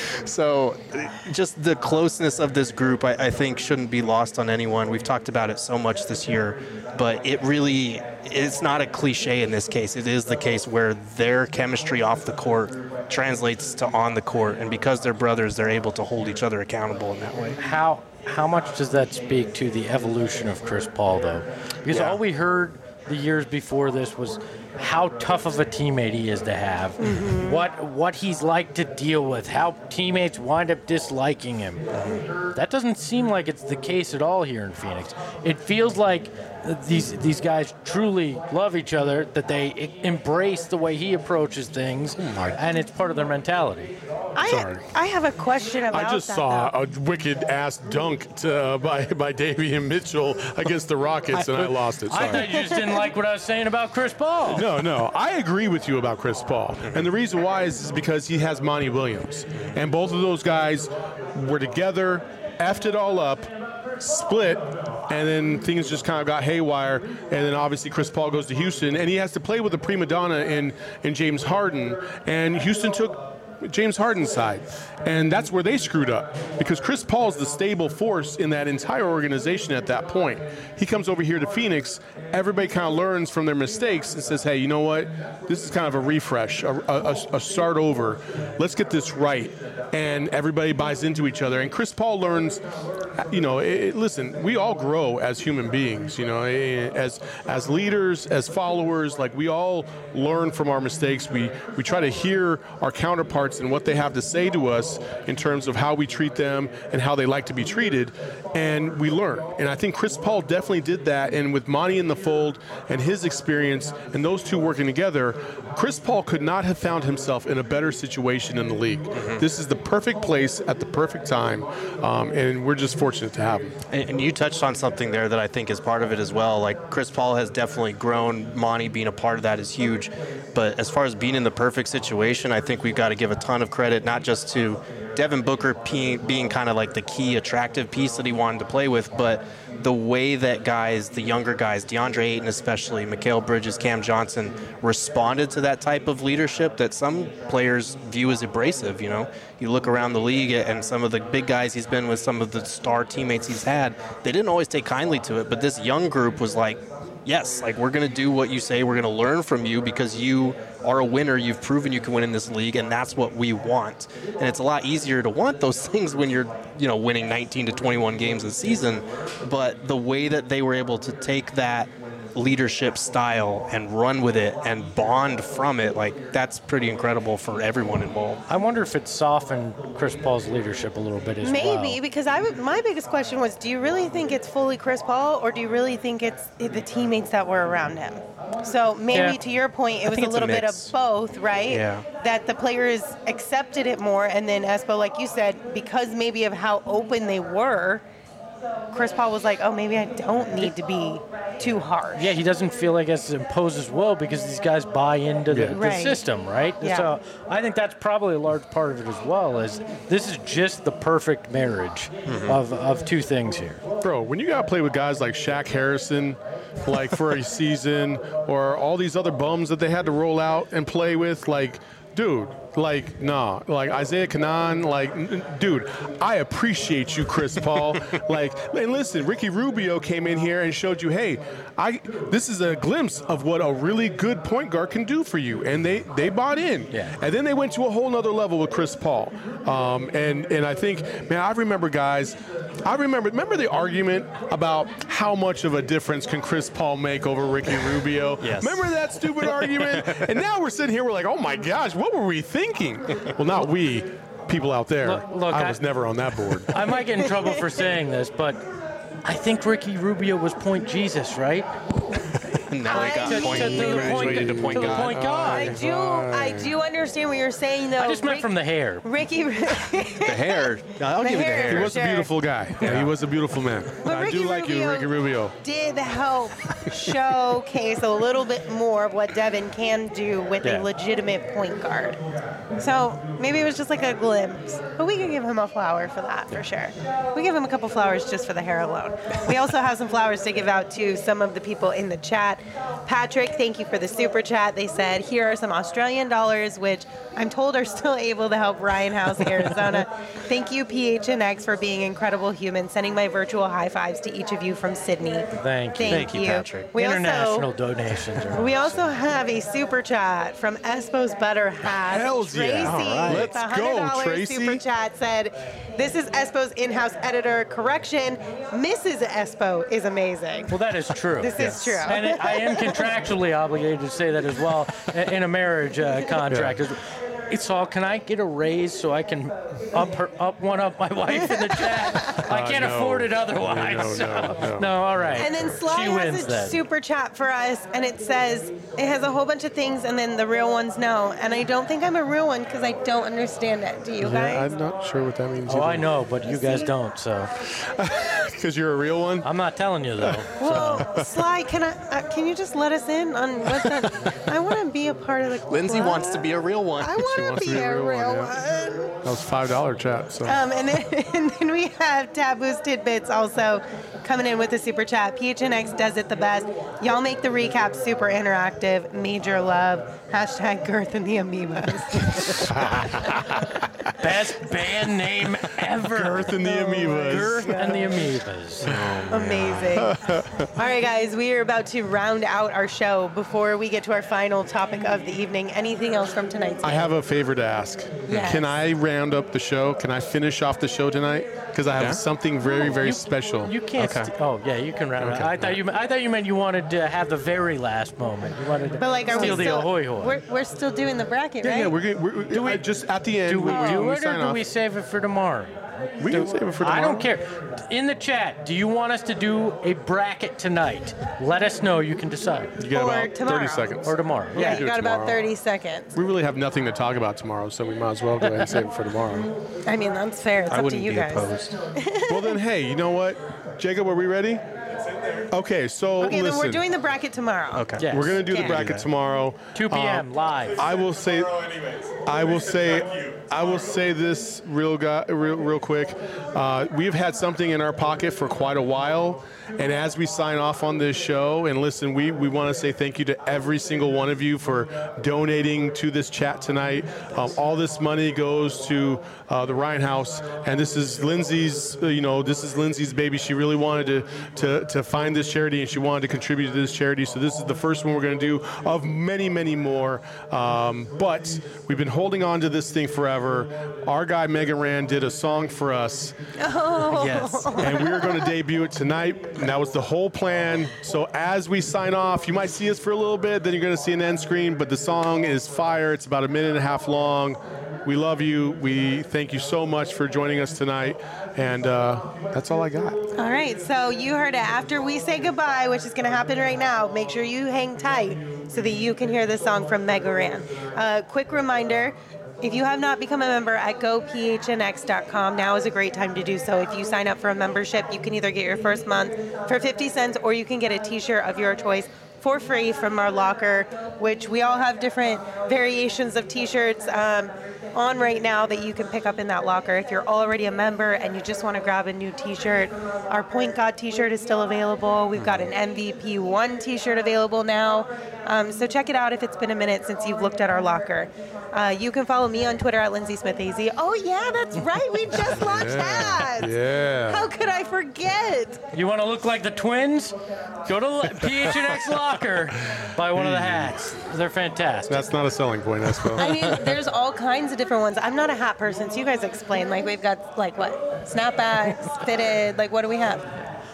So just the closeness of this group, I, I think, shouldn't be lost on anyone. We've talked about it so much this year, but it really, it's not a cliche in this case. It is the case where their chemistry off the court translates to on the court. And because they're brothers, they're able to hold each other accountable in that way. How how much does that speak to the evolution of Chris Paul, though? Because Yeah. all we heard the years before this was how tough of a teammate he is to have, Mm-hmm. what what he's like to deal with, how teammates wind up disliking him. That doesn't seem like it's the case at all here in Phoenix. It feels like these these guys truly love each other, that they e- embrace the way he approaches things, and it's part of their mentality. I, Sorry. I have a question about I just that, saw though. a wicked ass dunk to, uh, by by Davion Mitchell against the Rockets, and I lost it. I Sorry. thought you just didn't like what I was saying about Chris Paul. No, no. I agree with you about Chris Paul. And the reason why is, is because he has Monty Williams. And both of those guys were together, effed it all up, split, and then things just kind of got haywire. And then obviously Chris Paul goes to Houston, and he has to play with a prima donna in, in James Harden. And Houston took James Harden's side. And that's where they screwed up, because Chris Paul is the stable force in that entire organization at that point. He comes over here to Phoenix, everybody kind of learns from their mistakes and says, hey, you know what? This is kind of a refresh, a, a, a start over. Let's get this right. And everybody buys into each other. And Chris Paul learns, you know, it, listen, we all grow as human beings, you know, as as leaders, as followers. Like, we all learn from our mistakes. We, we try to hear our counterparts and what they have to say to us in terms of how we treat them and how they like to be treated, and we learn. And I think Chris Paul definitely did that, and with Monty in the fold and his experience and those two working together, Chris Paul could not have found himself in a better situation in the league. Mm-hmm. This is the perfect place at the perfect time, um, and we're just fortunate to have him. And, and you touched on something there that I think is part of it as well. Like, Chris Paul has definitely grown. Monty being a part of that is huge. But as far as being in the perfect situation, I think we've got to give a ton of credit, not just to Devin Booker being, being kind of like the key attractive piece that he wanted to play with, but the way that guys, the younger guys, DeAndre Ayton especially, Mikal Bridges, Cam Johnson, responded to that type of leadership that some players view as abrasive. You know, you look around the league and some of the big guys he's been with, some of the star teammates he's had, they didn't always take kindly to it, but this young group was like, yes, like, we're going to do what you say. We're going to learn from you because you are a winner. You've proven you can win in this league, and that's what we want. And it's a lot easier to want those things when you're, you know, winning nineteen to twenty-one games a season. But the way that they were able to take that leadership style and run with it and bond from it, like, that's pretty incredible for everyone involved. I wonder if it softened Chris Paul's leadership a little bit as well. Maybe, because I would, my biggest question was, do you really think it's fully Chris Paul, or do you really think it's the teammates that were around him? So maybe Yeah. to your point, it I was think a it's a little bit of mix. both, right? Yeah. That the players accepted it more, and then Espo, like you said, because maybe of how open they were, Chris Paul was like, oh, maybe I don't need to be too harsh. Yeah, he doesn't feel like it's imposed as well because these guys buy into the, Yeah. the Right. system, right? Yeah. So I think that's probably a large part of it as well. Is this is just the perfect marriage of, of two things here. Bro, when you got to play with guys like Shaq Harrison, like for a season, or all these other bums that they had to roll out and play with, like, dude, like, nah, like Isaiah Canaan, like, n- n- dude, I appreciate you, Chris Paul. Like, and listen, Ricky Rubio came in here and showed you, hey, I this is a glimpse of what a really good point guard can do for you, and they they bought in. Yeah. And then they went to a whole nother level with Chris Paul. Um, and and I think, man, I remember guys. I remember remember the argument about how much of a difference can Chris Paul make over Ricky Rubio? Yes. Remember that stupid argument? And now we're sitting here, we're like, oh my gosh, what were we thinking? Well, not we, people out there. Look- look, I I- was never on that board. I might get in trouble for saying this, but I think Ricky Rubio was point Jesus, right? Now we got I point, mean- to the graduated to point to the guard. point I guard. do, I do understand what you're saying, though. I just meant Rick- from the hair. Ricky. The hair. I'll The give you the hair. hair. He was Sure. a beautiful guy. Yeah, he was a beautiful man. But I Ricky do like you, Rubio Ricky Rubio. did help showcase a little bit more of what Devin can do with Yeah. a legitimate point guard. So maybe it was just like a glimpse. But we can give him a flower for that, for sure. We give him a couple flowers just for the hair alone. We also have some flowers to give out to some of the people in the chat. Patrick, thank you for the super chat. They said, here are some Australian dollars, which I'm told are still able to help Ryan House, Arizona. Thank you, P H N X, for being incredible humans. Sending my virtual high fives to each of you from Sydney. Thank you. Thank, Thank you, Patrick. We International also, donations. Are we also have a super chat from Espo's Butter Hat. Hells Tracy, yeah. All right. with Let's a go, one hundred dollars Tracy. super chat said, this is Espo's in-house editor. Correction, Missus Espo is amazing. Well, that is true. This is true. And it, I am contractually obligated to say that as well in a marriage uh, contract. It's all, can I get a raise so I can up her, up one up my wife in the chat? I Uh, can't no. afford it otherwise. No, so- no, no. no, all right. And then Sly she has wins a then. super chat for us, and it says, it has a whole bunch of things, and then the real ones no. And I don't think I'm a real one because I don't understand it. Do you Yeah, guys? I'm not sure what that means. Oh, I know, but you guys don't, so Because you're a real one? I'm not telling you though. Well, Sly, can I? Uh, can you just let us in on what that? I want to be a part of the. Lindsay club. wants to be a real one. I She want wants to to be be a a real real one, one. That was five dollar chat. So Um, and then, and then we have Taboo's Tidbits also coming in with a super chat. P H N X does it the best. Y'all make the recap super interactive. Major love. Hashtag Girth and the Amoebas. Best band name ever. Girth and the Amoebas. Girth and the Amoebas. Amazing. All right, guys, we are about to round out our show. Before we get to our final topic of the evening, anything else from tonight's I game? have a favor to ask. Yes. Can I round up the show? Can I finish off the show tonight? Because I have Yeah. something very, very You- special. You can't. Okay. st- oh yeah, you can round it. Okay. I thought you. I thought you meant you wanted to have the very last moment. You wanted to But like, are we steal the still? ahoy hoy. We're, we're still doing the bracket, yeah, right? yeah, we're, gonna- we're, Do we- I just at the end. do we when do we it or sign do off, we save it for tomorrow? We can save it for tomorrow. I don't care. In the chat, do you want us to do a bracket tonight? Let us know. You can decide. You got Or about tomorrow. thirty seconds. Or tomorrow. Yeah, do you it got about tomorrow. thirty seconds. We really have nothing to talk about tomorrow, so we might as well go ahead and save it for tomorrow. I mean, that's fair. It's I up to wouldn't you be guys. opposed. Well then, hey, you know what, Jacob, are we ready? Okay, so Okay, listen. then we're doing the bracket tomorrow. Okay. Yes. We're gonna do the Yeah. bracket tomorrow. two p.m. Um, live. I will say, I will say, I will say this real guy, real, real quick. Uh, we've had something in our pocket for quite a while, and as we sign off on this show, and listen, we we want to say thank you to every single one of you for donating to this chat tonight. Um, all this money goes to uh, the Ryan House, and this is Lindsay's. Uh, you know, this is Lindsay's baby. She really wanted to to to find this charity, and she wanted to contribute to this charity. So this is the first one we're going to do of many, many more. Um, but we've been holding on to this thing forever. Our guy Megan Rand did a song for us, Yes. and we were going to debut it tonight. And that was the whole plan. So as we sign off, you might see us for a little bit, then you're going to see an end screen. But the song is fire. It's about a minute and a half long. We love you. We thank you so much for joining us tonight. And uh, that's all I got. All right, so you heard it. After we say goodbye, which is going to happen right now, make sure you hang tight so that you can hear the song from Mega Ran. Uh, quick reminder, if you have not become a member at go p h n x dot com, now is a great time to do so. If you sign up for a membership, you can either get your first month for fifty cents or you can get a t-shirt of your choice for free from our locker, which we all have different variations of t-shirts um, on right now that you can pick up in that locker. If you're already a member and you just want to grab a new t-shirt, our Point God t-shirt is still available. We've got an M V P one t-shirt available now. Um, so check it out if it's been a minute since you've looked at our locker. Uh, you can follow me on Twitter at Lindsay Smith A Z. Oh yeah, that's right. We just launched ads. Yeah. How could I forget? You want to look like the twins? Go to P H N X Locker, buy one of the hats. They're fantastic. That's not a selling point, that's well. I mean, there's all kinds of different ones. I'm not a hat person, so you guys explain. Like, we've got, like, what? Snapbacks, fitted. Like, what do we have?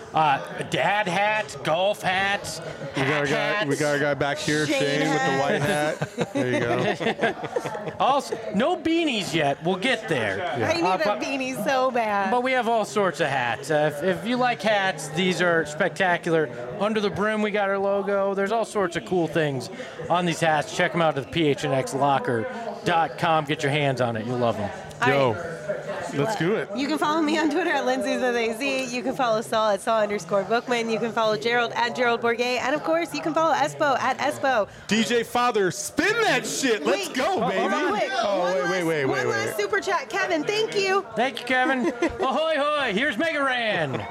Uh, dad hats, golf hats, We got, our guy, hats. we got our guy back here, Shane Shane, with the hat. white hat. There you go. Also, no beanies yet. We'll get there. I need Uh, a but- beanie so bad. But we have all sorts of hats. Uh, if, if you like hats, these are spectacular. Under the brim, we got our logo. There's all sorts of cool things on these hats. Check them out at the P H N X locker dot com. Get your hands on it. You'll love them. Yo, let's do it. You can follow me on Twitter at Lindsay's with A Z. You can follow Saul at Saul underscore Bookman. You can follow Gerald at Gerald Bourget. And of course, you can follow Espo at Espo. D J Father, spin that shit. Let's Wait. go, baby. Hold on, wait. Oh, One wait, last- wait, wait, One wait, last wait. super chat. Kevin, thank you. Thank you, Kevin. Ahoy, hoy. Here's Mega Ran.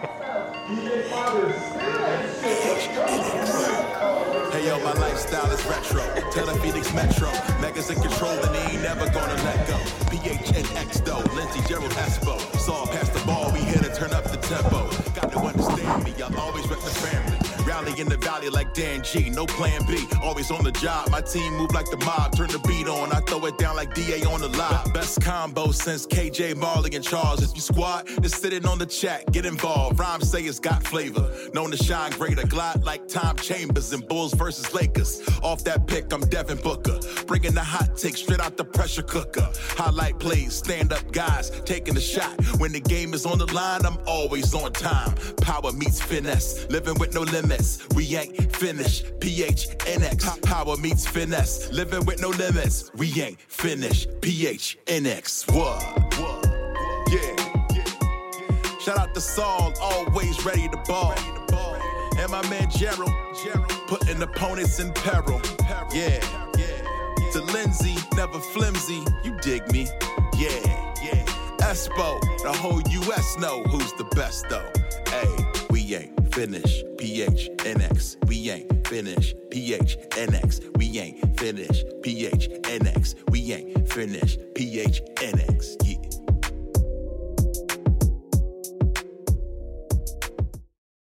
Hey yo, my lifestyle is retro. Tell the Phoenix Metro. Megas in control and they ain't never gonna let go. P H N X though, Lindsay, Gerald, Espo. Saw past the ball, we here to turn up the tempo. Got to understand me, I'll always rep the family. Rally in the valley like Dan G, no plan B. Always on the job, my team move like the mob. Turn the beat on, I throw it down like D A on the live. Best combo since K J, Marley, and Charles. If you squad, just sitting on the chat, get involved. Rhymes say it's got flavor. Known to shine greater, glide like Tom Chambers in Bulls versus Lakers. Off that pick, I'm Devin Booker. Bringing the hot take straight out the pressure cooker. Highlight plays, stand up guys, taking the shot. When the game is on the line, I'm always on time. Power meets finesse, living with no limits. We ain't finished. P H N X. Power meets finesse, living with no limits. We ain't finished. P H N X. What? Yeah. Shout out to Saul, always ready to ball. And my man Gerald, putting opponents in peril. Yeah. To Lindsay, never flimsy. You dig me? Yeah. Yeah. Espo, the whole U S know who's the best though. Hey, we ain't finished. P H N X. We ain't finished. P H N X. We ain't finished. P H N X. We ain't finished. P H N X. Yeah.